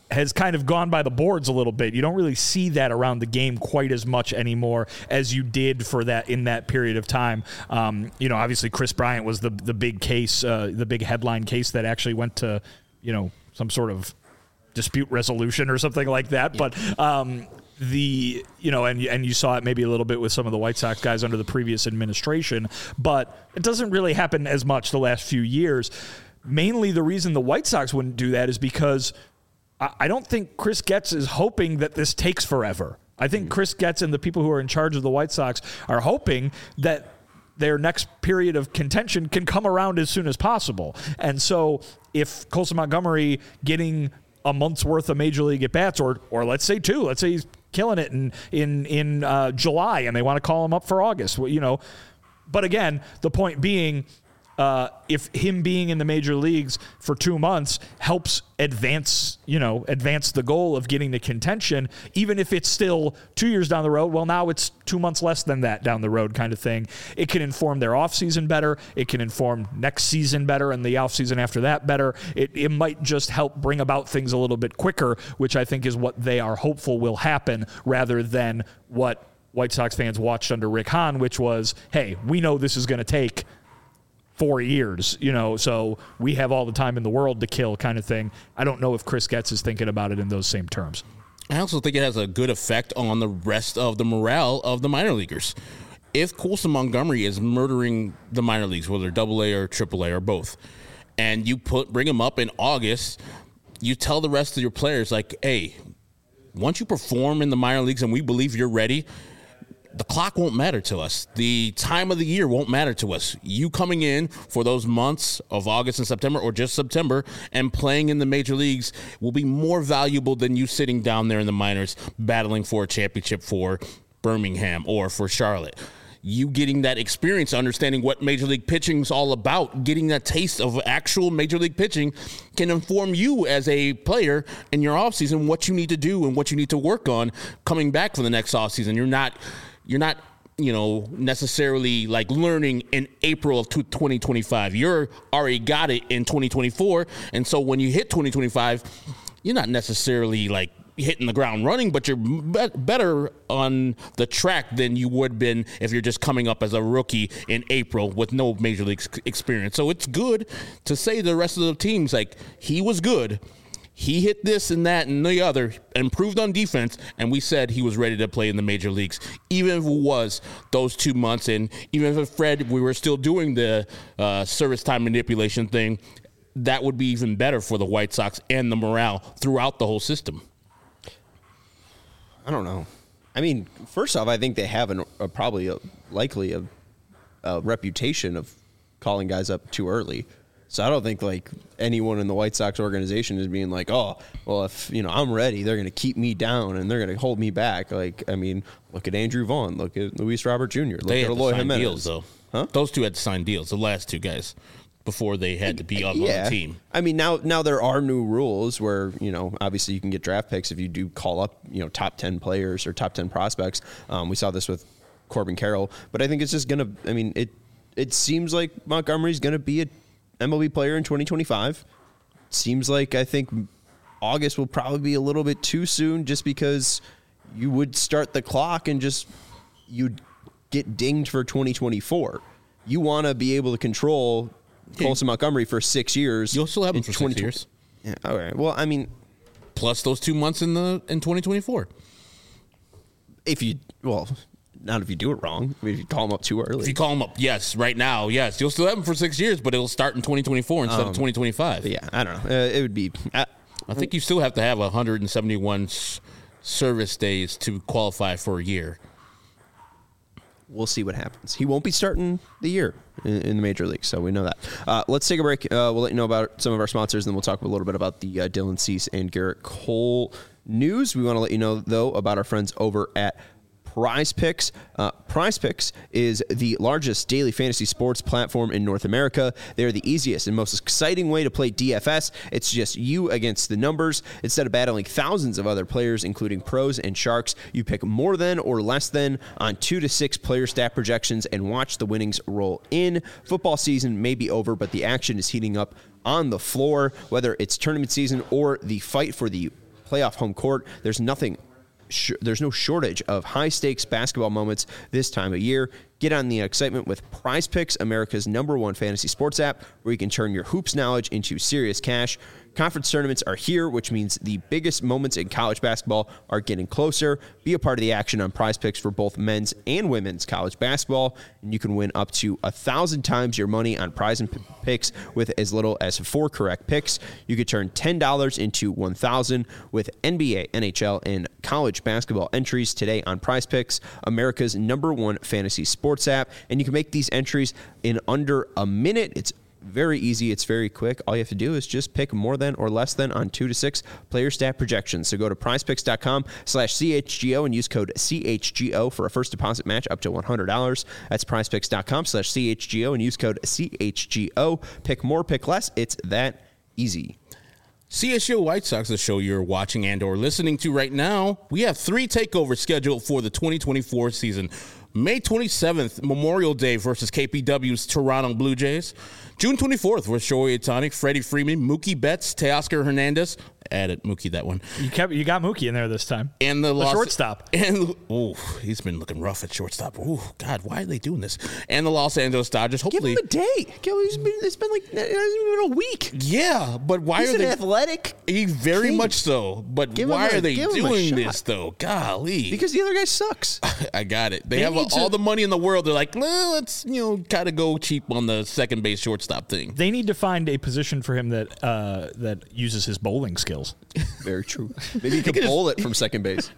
has kind of gone by the boards a little bit. You don't really see that around the game quite as much anymore as you did for that in that period of time. Um, you know, obviously Chris Bryant was the the big case, uh, the big headline case that actually went to, you know, some sort of dispute resolution or something like that. Yeah. But um, the, you know, and and you saw it maybe a little bit with some of the White Sox guys under the previous administration, but it doesn't really happen as much the last few years. Mainly the reason the White Sox wouldn't do that is because I don't think Chris Getz is hoping that this takes forever. I think Chris Getz and the people who are in charge of the White Sox are hoping that their next period of contention can come around as soon as possible. And so if Colson Montgomery getting a month's worth of Major League at-bats, or or let's say two, let's say he's killing it in, in, in uh, July and they want to call him up for August, well, you know. But again, the point being, Uh, if him being in the major leagues for two months helps advance, you know, advance the goal of getting to contention, even if it's still two years down the road, well, now it's two months less than that down the road kind of thing. It can inform their offseason better. It can inform next season better and the offseason after that better. It, it might just help bring about things a little bit quicker, which I think is what they are hopeful will happen, rather than what White Sox fans watched under Rick Hahn, which was, hey, we know this is going to take four years, you know, so we have all the time in the world to kill kind of thing. I don't know if Chris Getz is thinking about it in those same terms. I also think it has a good effect on the rest of the morale of the minor leaguers. If Colson Montgomery is murdering the minor leagues, whether double A or triple A or both, and you put bring him up in August, you tell the rest of your players, like, hey, once you perform in the minor leagues and we believe you're ready, the clock won't matter to us. The time of the year won't matter to us. You coming in for those months of August and September, or just September, and playing in the major leagues will be more valuable than you sitting down there in the minors battling for a championship for Birmingham or for Charlotte. You getting that experience, understanding what Major League pitching is all about, getting that taste of actual Major League pitching can inform you as a player in your offseason what you need to do and what you need to work on coming back for the next offseason. You're not... You're not, you know, necessarily like learning in April of twenty twenty-five. You're already got it in twenty twenty-four. And so when you hit twenty twenty-five, you're not necessarily like hitting the ground running, but you're be- better on the track than you would have been if you're just coming up as a rookie in April with no major league experience. So it's good to say to the rest of the teams, like, he was good. He hit this and that and the other, improved on defense, and we said he was ready to play in the major leagues, even if it was those two months. And even if Fred, we were still doing the uh, service time manipulation thing, that would be even better for the White Sox and the morale throughout the whole system. I don't know. I mean, first off, I think they have an, a probably a, likely a, a reputation of calling guys up too early. So I don't think like anyone in the White Sox organization is being like, oh, well, if you know I'm ready, they're going to keep me down and they're going to hold me back. Like, I mean, look at Andrew Vaughn, look at Luis Robert Junior, look they at had Eloy to sign Jimenez. Deals, though. Huh? Those two had to sign deals. The last two guys before they had to be up yeah. on the team. I mean, now now there are new rules where you know obviously you can get draft picks if you do call up you know top ten players or top ten prospects. Um, we saw this with Corbin Carroll, but I think it's just gonna. I mean, it it seems like Montgomery's gonna be a M L B player in twenty twenty-five. Seems like I think August will probably be a little bit too soon just because you would start the clock and just you'd get dinged for twenty twenty-four. You want to be able to control Colson Montgomery for six years. You'll still have him for six years. Yeah, all right. Well, I mean, plus those two months in the in twenty twenty-four. If you well. Not if you do it wrong. I mean, if you call him up too early. If you call him up, yes, right now, yes. You'll still have him for six years, but it'll start in twenty twenty-four instead um, of twenty twenty-five. Yeah, I don't know. Uh, it would be... Uh, I think you still have to have one hundred seventy-one s- service days to qualify for a year. We'll see what happens. He won't be starting the year in, in the major leagues, so we know that. Uh, let's take a break. Uh, we'll let you know about some of our sponsors, and then we'll talk a little bit about the uh, Dylan Cease and Garrett Cole news. We want to let you know, though, about our friends over at Prize Picks. Uh, Prize Picks is the largest daily fantasy sports platform in North America. They're the easiest and most exciting way to play D F S. It's just you against the numbers. Instead of battling thousands of other players, including pros and sharks, you pick more than or less than on two to six player stat projections and watch the winnings roll in. Football season may be over, but the action is heating up on the floor, whether it's tournament season or the fight for the playoff home court. There's nothing. Sh- there's no shortage of high-stakes basketball moments this time of year. Get on the excitement with Prize Picks, America's number one fantasy sports app, where you can turn your hoops knowledge into serious cash. Conference tournaments are here, which means the biggest moments in college basketball are getting closer. Be a part of the action on Prize Picks for both men's and women's college basketball, and you can win up to a thousand times your money on Prize Picks with as little as four correct picks. You could turn ten dollars into one thousand dollars with N B A, N H L, and college basketball entries today on Prize Picks, America's number one fantasy sports app, and you can make these entries in under a minute. It's very easy. It's very quick. All you have to do is just pick more than or less than on two to six player stat projections. So go to prizepicks.com slash CHGO and use code C H G O for a first deposit match up to one hundred dollars. That's prizepicks.com slash CHGO and use code C H G O. Pick more, pick less. It's that easy. C H G O White Sox, the show you're watching and or listening to right now, we have three takeovers scheduled for the twenty twenty-four season. May twenty-seventh, Memorial Day versus K P W's Toronto Blue Jays. June twenty-fourth with Shohei Ohtani, Freddie Freeman, Mookie Betts, Teoscar Hernandez. Added Mookie that one. You kept you got Mookie in there this time. And the, the Los, shortstop. And oh, he's been looking rough at shortstop. Oh God, why are they doing this? And the Los Angeles Dodgers. Hopefully, give him a day. Give him, he's been, it's been like it hasn't even been a week. Yeah, but why he's are an they athletic? He very king. much so. But give why a, are they doing this shot. though? Golly, because the other guy sucks. I got it. They, They have need all to- the money in the world. They're like, well, let's you know, kind of go cheap on the second base shortstop thing. They need to find a position for him that uh, that uses his bowling skills. Very true. Maybe you could bowl it from second base.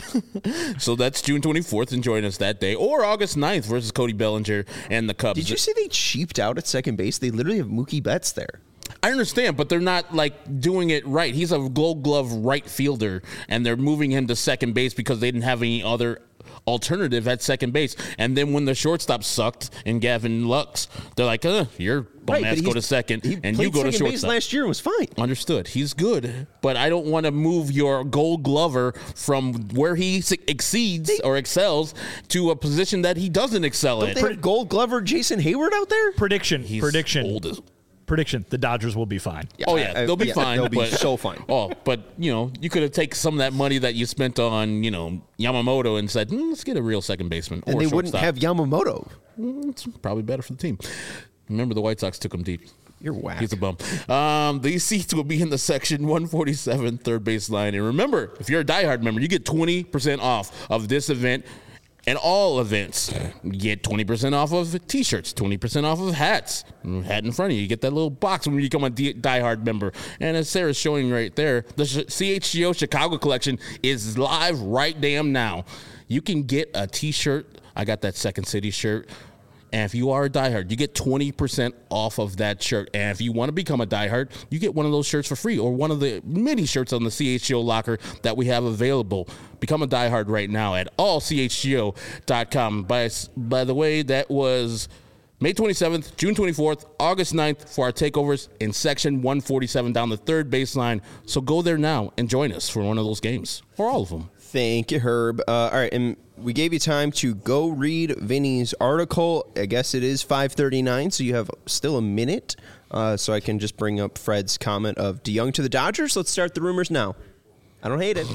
So that's June twenty-fourth, and join us that day. Or August ninth versus Cody Bellinger and the Cubs. Did you see they cheaped out at second base? They literally have Mookie Betts there. I understand, but they're not like doing it right. He's a Gold Glove right fielder, and they're moving him to second base because they didn't have any other alternative at second base. And then when the shortstop sucked and Gavin Lux, they're like, uh, you're bum Right, ass but go he's- to second, He and played you go to second base shortstop. last year and was fine. Understood. He's good, but I don't want to move your Gold Glover from where he s- exceeds They- or excels to a position that he doesn't excel Don't in. they have Gold Glover Jason Hayward out there? Prediction. He's prediction. old as- Prediction. The Dodgers will be fine. Oh yeah, I- I- they'll be yeah, fine. they'll be but, so fine. Oh, but you know, you could have taken some of that money that you spent on, you know, Yamamoto and said, hmm, let's get a real second baseman. And or they shortstop. wouldn't have Yamamoto. Mm, It's probably better for the team. Remember, the White Sox took him deep. You're whack. He's a bum. Um, these seats will be in the section one forty-seven, third base line. And remember, if you're a diehard member, you get twenty percent off of this event and all events. You get twenty percent off of T-shirts, twenty percent off of hats. Hat in front of you. You get that little box when you become a D- diehard member. And as Sarah's showing right there, the Sh- C H G O Chicago collection is live right damn now. You can get a T-shirt. I got that Second City shirt. And if you are a diehard, you get twenty percent off of that shirt. And if you want to become a diehard, you get one of those shirts for free or one of the many shirts on the C H G O locker that we have available. Become a diehard right now at all C H G O dot com. By, by the way, that was May twenty-seventh, June twenty-fourth, August ninth for our takeovers in section one forty-seven down the third baseline. So go there now and join us for one of those games or all of them. Thank you, Herb. Uh, all right, and we gave you time to go read Vinny's article. I guess it is five thirty-nine, so you have still a minute. Uh, so I can just bring up Fred's comment of DeYoung to the Dodgers. Let's start the rumors now. I don't hate it.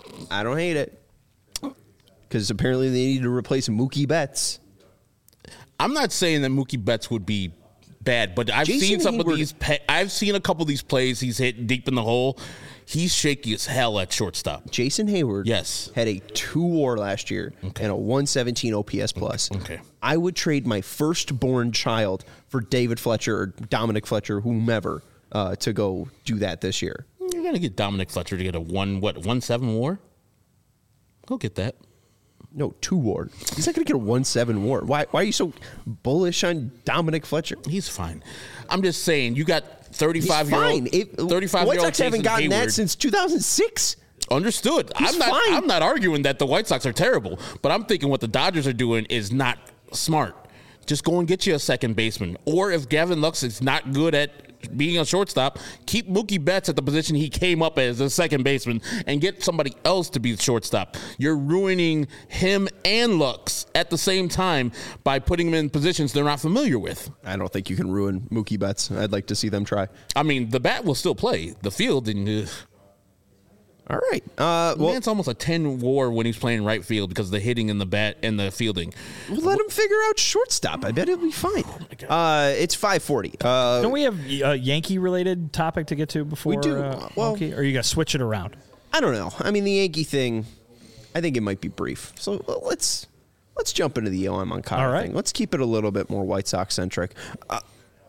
I don't hate it. Because apparently they need to replace Mookie Betts. I'm not saying that Mookie Betts would be bad, but I've Jason seen some Hayward- of these. Pe- I've seen a couple of these plays. He's hit deep in the hole. He's shaky as hell at shortstop. Jason Hayward Yes. had a two war last year and a one seventeen O P S plus. Okay. I would trade my firstborn child for David Fletcher or Dominic Fletcher, whomever, uh, to go do that this year. You're gonna get Dominic Fletcher to get a one what one seven WAR. Go get that. No, two war. He's not going to get a one seven war. Why Why are you so bullish on Dominic Fletcher? He's fine. I'm just saying you got He's thirty-five year fine. old It- thirty-five White year old Sox haven't Jason gotten Hayward. that since two thousand six. Understood. He's I'm not. fine. I'm not arguing that the White Sox are terrible, but I'm thinking what the Dodgers are doing is not smart. Just go and get you a second baseman, or if Gavin Lux is not good at being a shortstop, keep Mookie Betts at the position he came up as a second baseman, and get somebody else to be the shortstop. You're ruining him and Lux at the same time by putting them in positions they're not familiar with. I don't think you can ruin Mookie Betts. I'd like to see them try. I mean, the bat will still play the field, and uh, All right. Uh, well, Man's almost a ten war when he's playing right field because of the hitting and the bat and the fielding. We'll let him figure out shortstop. I bet he'll be fine. Oh uh, it's five forty. Uh, Don't we have a Yankee-related topic to get to before? We do. Uh, Well, Monkey? Or are you going to switch it around? I don't know. I mean, the Yankee thing, I think it might be brief. So well, let's let's jump into the Yoan Moncada All right. thing. Let's keep it a little bit more White Sox-centric. Uh,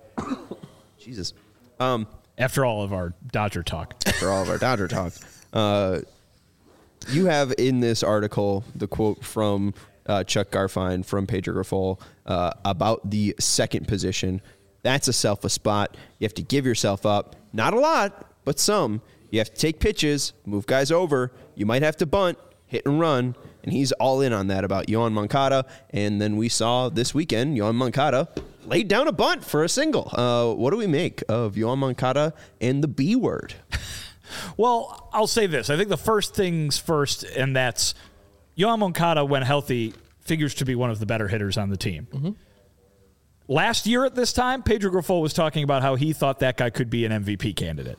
Jesus. Um, After all of our Dodger talk. after all of our Dodger talk. Uh, you have in this article the quote from uh, Chuck Garfien from Pedro Grifol uh, about the second position. That's a selfless spot. You have to give yourself up. Not a lot, but some. You have to take pitches, move guys over. You might have to bunt, hit and run. And he's all in on that about Yoan Moncada. And then we saw this weekend, Yoan Moncada laid down a bunt for a single. Uh, what do we make of Yoan Moncada and the B word? Well, I'll say this. I think the first things first, and that's Yoan Moncada, when healthy, figures to be one of the better hitters on the team. Mm-hmm. Last year at this time, Pedro Grifol was talking about how he thought that guy could be an M V P candidate.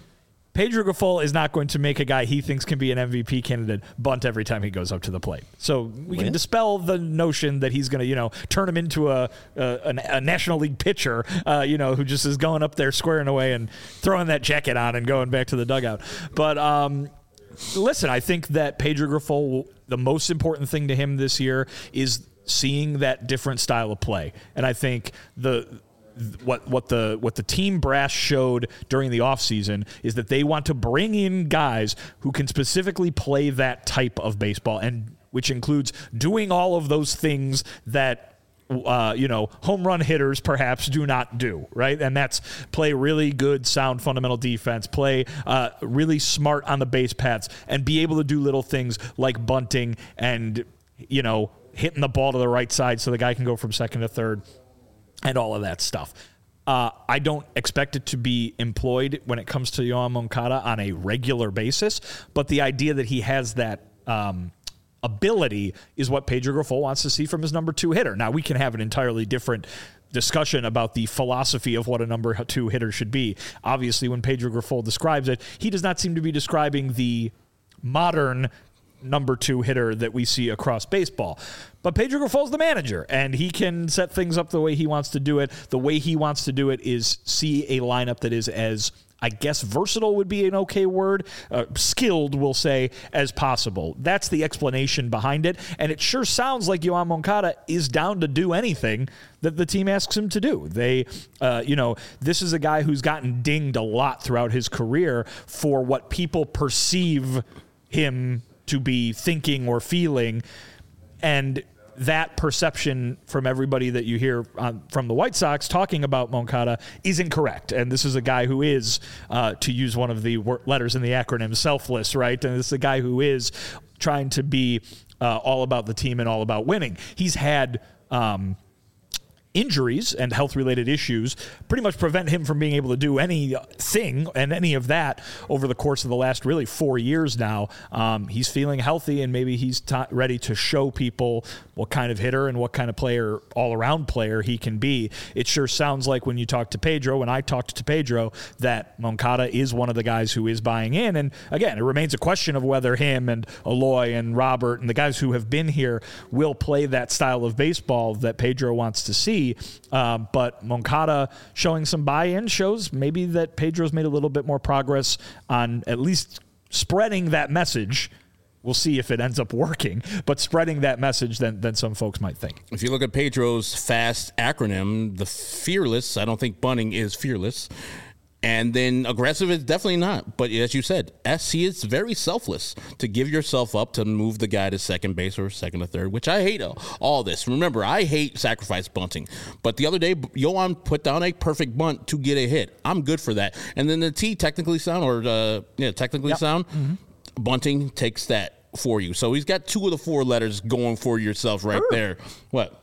Pedro Grifol is not going to make a guy he thinks can be an M V P candidate bunt every time he goes up to the plate. So we can When? dispel the notion that he's going to, you know, turn him into a a, a National League pitcher, uh, you know, who just is going up there squaring away and throwing that jacket on and going back to the dugout. But um, listen, I think that Pedro Grifol, the most important thing to him this year is seeing that different style of play. And I think the what what the what the team brass showed during the offseason is that they want to bring in guys who can specifically play that type of baseball, and which includes doing all of those things that uh, you know, home run hitters perhaps do not do, right? And that's play really good, sound, fundamental defense, play uh, really smart on the base paths, and be able to do little things like bunting and, you know, hitting the ball to the right side so the guy can go from second to third. And all of that stuff. Uh, I don't expect it to be employed when it comes to Yoan Moncada on a regular basis, but the idea that he has that um, ability is what Pedro Grifol wants to see from his number two hitter. Now, we can have an entirely different discussion about the philosophy of what a number two hitter should be. Obviously, when Pedro Grifol describes it, he does not seem to be describing the modern number two hitter that we see across baseball. But Pedro Grifol's the manager, and he can set things up the way he wants to do it. The way he wants to do it is see a lineup that is as, I guess, versatile would be an okay word, uh, skilled, we'll say, as possible. That's the explanation behind it, and it sure sounds like Yoan Moncada is down to do anything that the team asks him to do. They, uh, you know, this is a guy who's gotten dinged a lot throughout his career for what people perceive him to be thinking or feeling, and that perception from everybody that you hear um, from the White Sox talking about Moncada is incorrect. And this is a guy who is, uh, to use one of the letters in the acronym, selfless, right? And this is a guy who is trying to be uh, all about the team and all about winning. He's had um, injuries and health-related issues pretty much prevent him from being able to do anything and any of that over the course of the last really four years now. Um, he's feeling healthy, and maybe he's t- ready to show people what kind of hitter and what kind of player, all-around player he can be. It sure sounds like when you talk to Pedro, when I talked to Pedro, that Moncada is one of the guys who is buying in. And again, it remains a question of whether him and Eloy and Robert and the guys who have been here will play that style of baseball that Pedro wants to see. Um, but Moncada showing some buy-in shows maybe that Pedro's made a little bit more progress on at least spreading that message. We'll see if it ends up working, but spreading that message than, than some folks might think. If you look at Pedro's FAST acronym, the fearless, I don't think bunting is fearless. And then aggressive is definitely not. But as you said, S, he is very selfless to give yourself up to move the guy to second base or second or third, which I hate all this. Remember, I hate sacrifice bunting. But the other day, Yoan put down a perfect bunt to get a hit. I'm good for that. And then the T, technically sound, or uh, yeah, technically yep. sound, mm-hmm. bunting takes that for you. So he's got two of the four letters going for yourself right sure. there. What?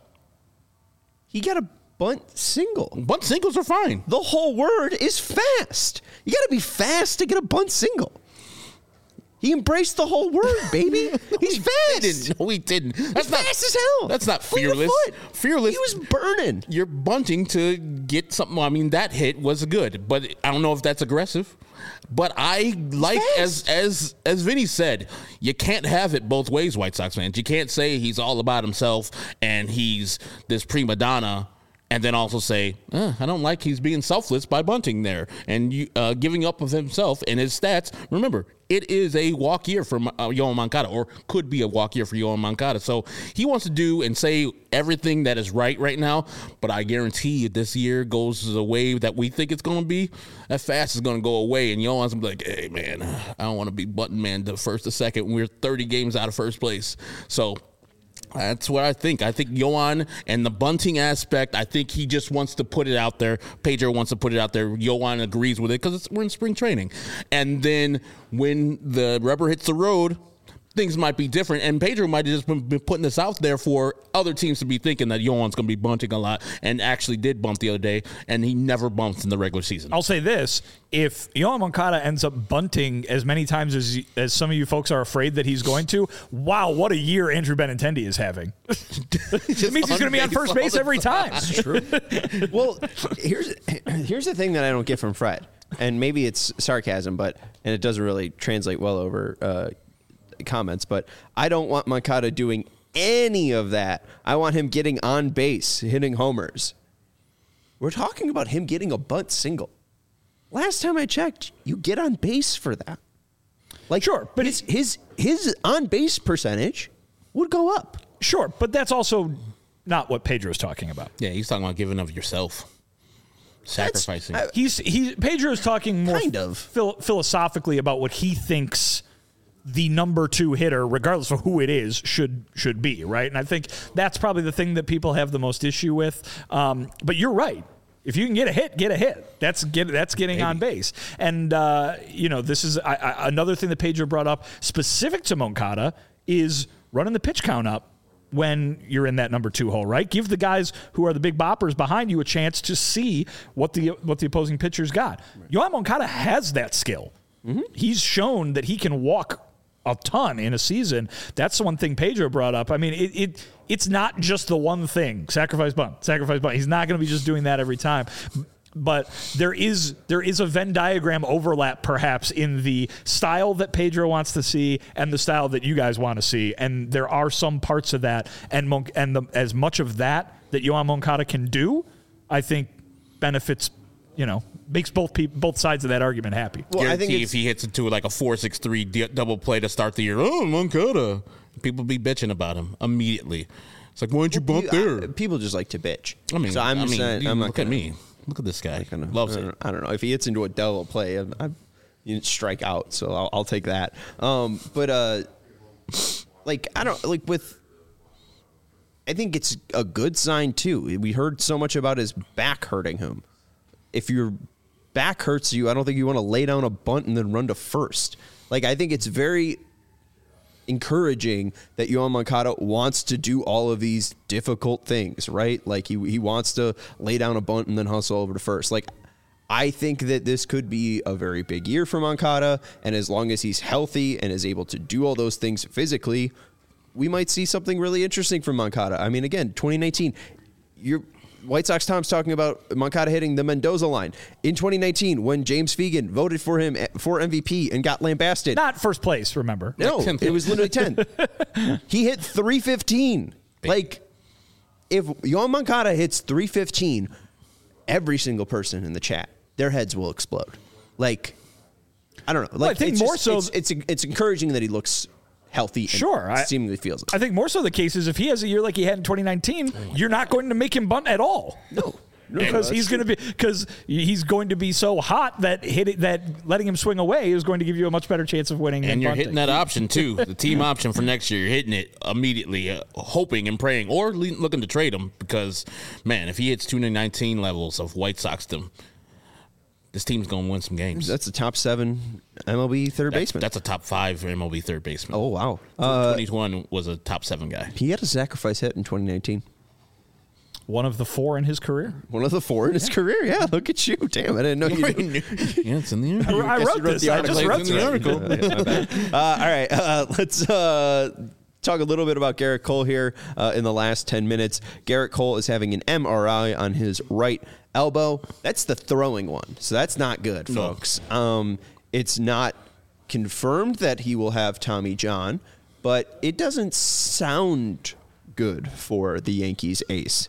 He got a bunt single. Bunt singles are fine. The whole word is fast. You got to be fast to get a bunt single. He embraced the whole word, baby. He's fast. No, he didn't. That's He's not fast as hell. That's not Fleet of fearless. foot. Fearless. He was burning. You're bunting to get something. I mean, that hit was good, but I don't know if that's aggressive. But I like, as as as Vinny said, you can't have it both ways, White Sox fans. You can't say he's all about himself and he's this prima donna, and then also say, eh, I don't like he's being selfless by bunting there and you, uh, giving up of himself and his stats. Remember, it is a walk year for uh, Yoan Moncada, or could be a walk year for Yoan Moncada. So he wants to do and say everything that is right right now, but I guarantee you this year goes the way that we think it's going to be. That fast is going to go away, and Yoan's going to be like, hey, man, I don't want to be button man to first to second when we're thirty games out of first place. So that's what I think. I think Yoan and the bunting aspect, I think he just wants to put it out there. Pedro wants to put it out there. Yoan agrees with it because we're in spring training. And then when the rubber hits the road, things might be different. And Pedro might have just been, been putting this out there for other teams to be thinking that Yoan's going to be bunting a lot, and actually did bunt the other day, and he never bumps in the regular season. I'll say this. If Yoan Moncada ends up bunting as many times as as some of you folks are afraid that he's going to, wow, what a year Andrew Benintendi is having. It means he's going to be on first base every time. That's true. Well, here's here's the thing that I don't get from Fred, and maybe it's sarcasm, but and it doesn't really translate well over uh, comments, but I don't want Moncada doing any of that. I want him getting on base, hitting homers. We're talking about him getting a bunt single. Last time I checked, you get on base for that. Like, sure, but his his his on base percentage would go up. Sure, but that's also not what Pedro's talking about. Yeah, he's talking about giving of yourself. Sacrificing. I, He's he Pedro's talking more Kind of. phil- philosophically about what he thinks the number two hitter, regardless of who it is, should should be, right? And I think that's probably the thing that people have the most issue with. Um, but you're right. If you can get a hit, get a hit. That's get that's getting Maybe. on base. And uh, you know, this is I, I, another thing that Pedro brought up specific to Moncada is running the pitch count up when you're in that number two hole, right? Give the guys who are the big boppers behind you a chance to see what the what the opposing pitcher's got. Right. Yoan Moncada has that skill. Mm-hmm. He's shown that he can walk a ton in a season. That's the one thing Pedro brought up. I mean, it, it it's not just the one thing. Sacrifice bunt, sacrifice bunt. He's not going to be just doing that every time. But there is there is a Venn diagram overlap perhaps in the style that Pedro wants to see and the style that you guys want to see. And there are some parts of that. And Mon- and the, as much of that that Yoan Moncada can do, I think benefits, you know, makes both people, both sides of that argument happy. Well, Guarantee I think if he hits it to like a four six three d- double play to start the year, oh, Moncada, people be bitching about him immediately. It's like, why don't you bump you, there? I, people just like to bitch. I mean, so I'm I just mean, saying, you I'm look not gonna, at me. Look at this guy. Gonna, Loves I it. I don't know. If he hits into a double play, I, I, you didn't strike out, so I'll, I'll take that. Um, but uh, like I don't like with. I think it's a good sign too. We heard so much about his back hurting him. If your back hurts you, I don't think you want to lay down a bunt and then run to first. Like I think it's very encouraging that Yoan Moncada wants to do all of these difficult things, right? Like he he wants to lay down a bunt and then hustle over to first. Like I think that this could be a very big year for Moncada, and as long as he's healthy and is able to do all those things physically, we might see something really interesting from Moncada. I mean, again, twenty nineteen, you're White Sox Tom's talking about Moncada hitting the Mendoza line. In twenty nineteen, when James Fegan voted for him for M V P and got lambasted. Not first place, remember. No, it was literally tenth. He hit three fifteen. Like, if Yoan Moncada hits three fifteen, every single person in the chat, their heads will explode. Like, I don't know. Like, well, I think it's more just, so. It's, it's, it's encouraging that he looks healthy and sure, I, seemingly feels it. I think more so the case is if he has a year like he had in twenty nineteen, oh you're not going to make him bunt at all. No. No, because no, he's going to be because he's going to be so hot that hit it, that letting him swing away is going to give you a much better chance of winning. And than you're bunting. hitting that option too, the team option for next year. You're hitting it immediately, uh, hoping and praying, or le- looking to trade him because, man, if he hits twenty nineteen levels of White Sox-dom, this team's going to win some games. That's a top seven M L B third that's, baseman. That's a top five M L B third baseman. Oh wow, uh, twenty-one was a top seven guy. He had a sacrifice hit in twenty nineteen. One of the four in his career. One of the four in his yeah. career. Yeah, look at you. Damn, I didn't know you knew. Yeah, it's in the article. I, I wrote this. I just wrote the article. Yeah, yeah, uh, all right, uh, let's uh, talk a little bit about Garrett Cole here uh, in the last ten minutes. Garrett Cole is having an M R I on his right elbow. That's the throwing one, so that's not good, folks. No. Um, it's not confirmed that he will have Tommy John, but it doesn't sound good for the Yankees ace.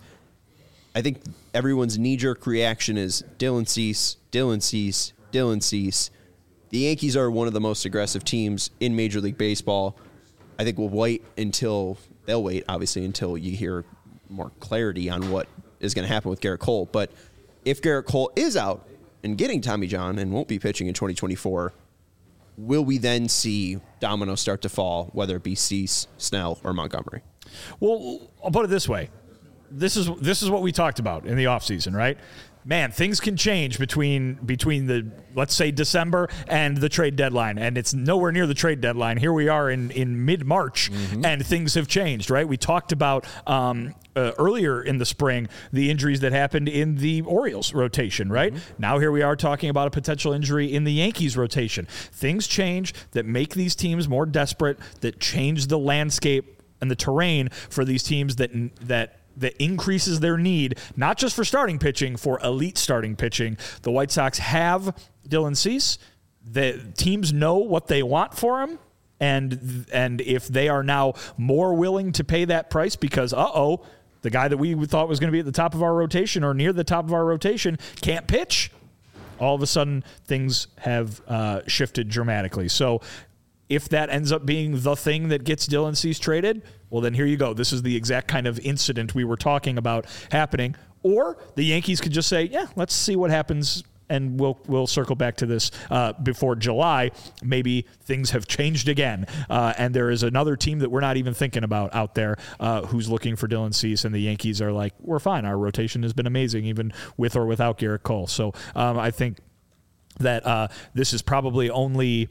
I think everyone's knee-jerk reaction is Dylan Cease, Dylan Cease, Dylan Cease. The Yankees are one of the most aggressive teams in Major League Baseball. I think we'll wait until, they'll wait, obviously, until you hear more clarity on what is going to happen with Garrett Cole. But if Garrett Cole is out and getting Tommy John and won't be pitching in twenty twenty-four, will we then see dominoes start to fall, whether it be Cease, Snell, or Montgomery? Well, I'll put it this way. This is this is what we talked about in the offseason, right? Man, things can change between between the, let's say, December and the trade deadline, and it's nowhere near the trade deadline. Here we are in, in mid-March, mm-hmm. and things have changed, right? We talked about um, uh, earlier in the spring the injuries that happened in the Orioles rotation, right? Mm-hmm. Now here we are talking about a potential injury in the Yankees rotation. Things change that make these teams more desperate, that change the landscape and the terrain for these teams that that that increases their need, not just for starting pitching, for elite starting pitching. The White Sox have Dylan Cease. The teams know what they want for him, and and if they are now more willing to pay that price because, uh-oh, the guy that we thought was going to be at the top of our rotation or near the top of our rotation can't pitch, all of a sudden things have uh, shifted dramatically. So if that ends up being the thing that gets Dylan Cease traded, well, then here you go. This is the exact kind of incident we were talking about happening. Or the Yankees could just say, yeah, let's see what happens, and we'll we'll circle back to this uh, before July. Maybe things have changed again, uh, and there is another team that we're not even thinking about out there uh, who's looking for Dylan Cease, and the Yankees are like, we're fine. Our rotation has been amazing, even with or without Garrett Cole. So um, I think that uh, this is probably only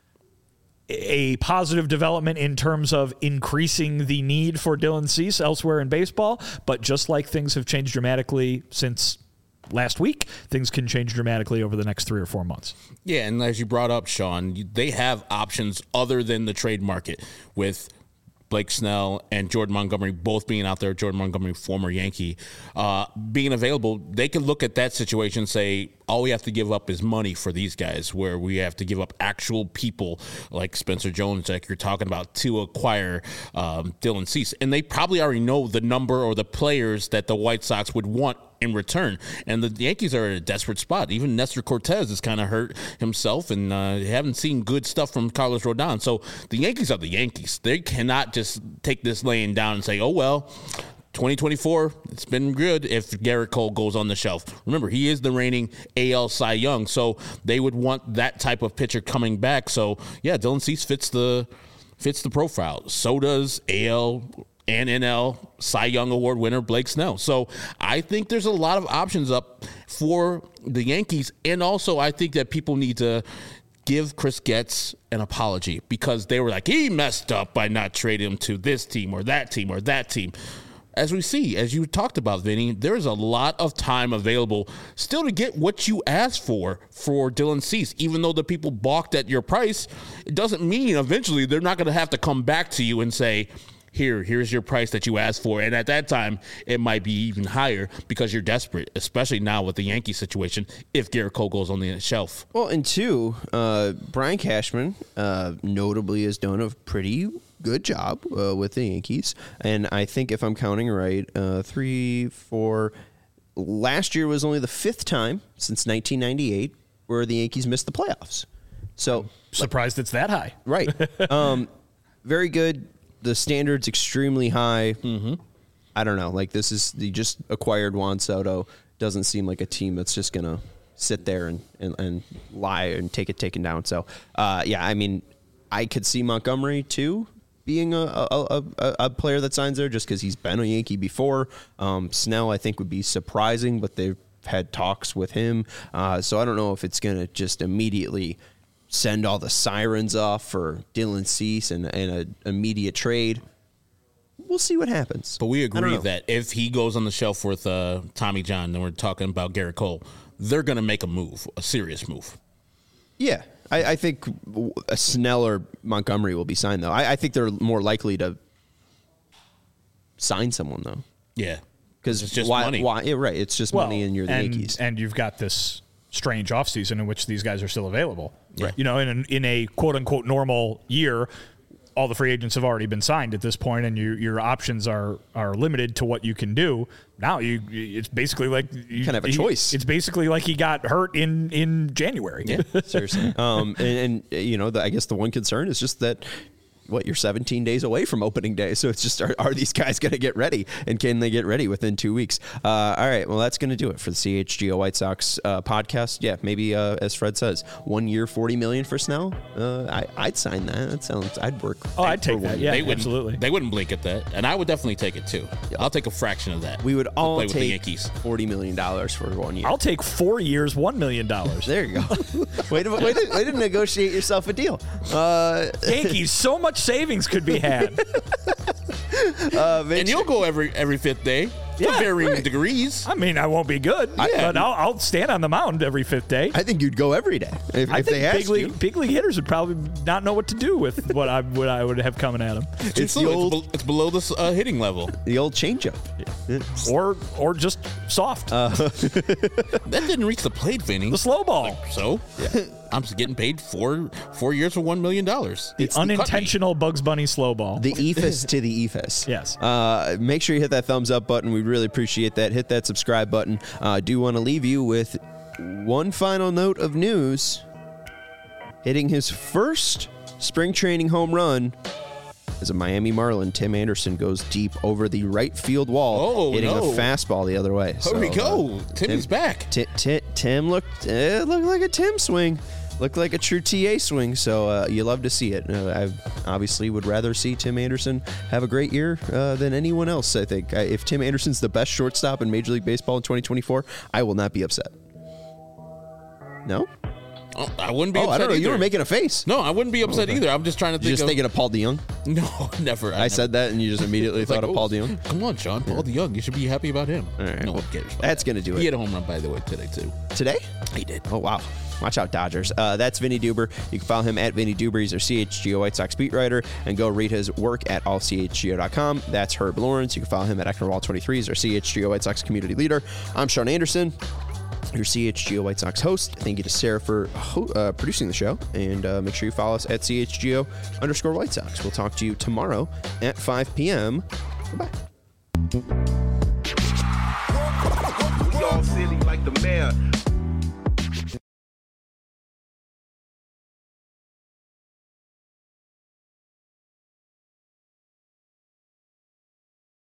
a positive development in terms of increasing the need for Dylan Cease elsewhere in baseball. But just like things have changed dramatically since last week, things can change dramatically over the next three or four months. Yeah, and as you brought up, Sean, they have options other than the trade market with Blake Snell and Jordan Montgomery both being out there. Jordan Montgomery, former Yankee, uh, being available. They can look at that situation and say, all we have to give up is money for these guys, where we have to give up actual people like Spencer Jones, like you're talking about, to acquire um, Dylan Cease. And they probably already know the number or the players that the White Sox would want in return. And the Yankees are at a desperate spot. Even Nestor Cortez has kind of hurt himself, and uh, haven't seen good stuff from Carlos Rodon. So the Yankees are the Yankees. They cannot just take this laying down and say, oh, well, twenty twenty-four, it's been good if Garrett Cole goes on the shelf. Remember, he is the reigning A L Cy Young, so they would want that type of pitcher coming back. So, yeah, Dylan Cease fits the fits the profile. So does A L and N L Cy Young Award winner Blake Snell. So I think there's a lot of options up for the Yankees, and also I think that people need to give Chris Getz an apology because they were like, he messed up by not trading him to this team or that team or that team. As we see, as you talked about, Vinny, there's a lot of time available still to get what you asked for for Dylan Cease. Even though the people balked at your price, it doesn't mean eventually they're not going to have to come back to you and say, here, here's your price that you asked for. And at that time, it might be even higher because you're desperate, especially now with the Yankee situation, if Garrett Cole goes on the shelf. Well, and two, uh, Brian Cashman uh, notably has done a pretty good job uh, with the Yankees. And I think if I'm counting right, uh, three, four, last year was only the fifth time since nineteen ninety-eight where the Yankees missed the playoffs. So I'm surprised like, it's that high. Right. um, very good. The standard's extremely high. Mm-hmm. I don't know. Like, this is, the just acquired Juan Soto. Doesn't seem like a team that's just going to sit there and, and, and lie and take it taken down. So, uh, yeah, I mean, I could see Montgomery, too, being a, a, a, a player that signs there just because he's been a Yankee before. Um, Snell, I think, would be surprising, but they've had talks with him. Uh, so I don't know if it's going to just immediately send all the sirens off for Dylan Cease and, and an immediate trade. We'll see what happens. But we agree that if he goes on the shelf with uh, Tommy John, then we're talking about Garrett Cole, they're going to make a move, a serious move. Yeah. I, I think a Snell or Montgomery will be signed, though. I, I think they're more likely to sign someone though. Yeah. Because it's just why, money. Why, yeah, right. It's just Well, money and you're the and, Yankees. and you've got this strange offseason in which these guys are still available. Right. You know, in, an, in a quote-unquote normal year, all the free agents have already been signed at this point, and your your options are are limited to what you can do. Now you, it's basically like you kind of have a he- choice. It's basically like he got hurt in in January. Yeah, seriously. Um, and, and you know, the, I guess the one concern is just that. What, you're seventeen days away from opening day. So it's just, are, are these guys going to get ready? And can they get ready within two weeks? Uh, all right. Well, that's going to do it for the C H G O White Sox uh, podcast. Yeah, maybe, uh, as Fred says, one year, forty million dollars for Snell. Uh, I, I'd sign that. That sounds, I'd work. Oh, I'd for take one that. year. Yeah, They wouldn't, absolutely. They wouldn't blink at that. And I would definitely take it too. I'll take a fraction of that. We would to all play with the take Yankees. forty million dollars for one year. I'll take four years, one million dollars. There you go. way, to, way, to, way to negotiate yourself a deal. Uh, Yankees, so much savings could be had. uh, And you'll go every every fifth day. Yeah, to varying right. degrees. I mean, I won't be good, but I'll, I'll stand on the mound every fifth day. I think you'd go every day if, I if think they asked big league, you. big league hitters would probably not know what to do with what I what I would have coming at them, It's It's, the it's, old, be- it's below the uh, hitting level. the old changeup. or or just soft, That didn't reach the plate, Vinny. the slow ball, So, I'm getting paid four four years for one million dollars. the unintentional Bugs Bunny slow ball. The E F I S to the E F I S. Yes. Uh, make sure you hit that thumbs up button. We really appreciate that. Hit that subscribe button. I uh, do want to leave you with one final note of news. Hitting his first spring training home run as a Miami Marlin, Tim Anderson goes deep over the right field wall, Oh, hitting no. a fastball the other way. Here So, we go. uh, Timmy's back. Ti- ti- Tim looked uh, looked like a Tim swing, looked like a true T A swing. So uh, you love to see it. Uh, I obviously would rather see Tim Anderson have a great year uh, than anyone else. I think I, if Tim Anderson's the best shortstop in Major League Baseball in twenty twenty-four, I will not be upset. No, Oh, I wouldn't be oh, upset I don't know. either. You were making a face. No, I wouldn't be upset either. I'm just trying to You're think just of... thinking of Paul DeYoung. No, never. I said that, and you just immediately It's thought like, of oh, Paul DeYoung. Come on, Sean. Paul DeYoung. You should be happy about him. All right, no well, one cares about that's that. gonna do He it. had a home run, by the way, today, too. Today? He did. Oh, wow. Watch out, Dodgers. Uh, that's Vinny Duber. You can follow him at Vinny Duber. He's our C H G O White Sox beat writer. And go read his work at all c h g o dot com. That's Herb Lawrence. You can follow him at Ecknerwall twenty-three. He's our C H G O White Sox community leader. I'm Sean Anderson, your C H G O White Sox host. Thank you to Sarah for ho- uh, producing the show. And uh, make sure you follow us at C H G O underscore White Sox. We'll talk to you tomorrow at five p.m. Goodbye. We all silly like the mayor.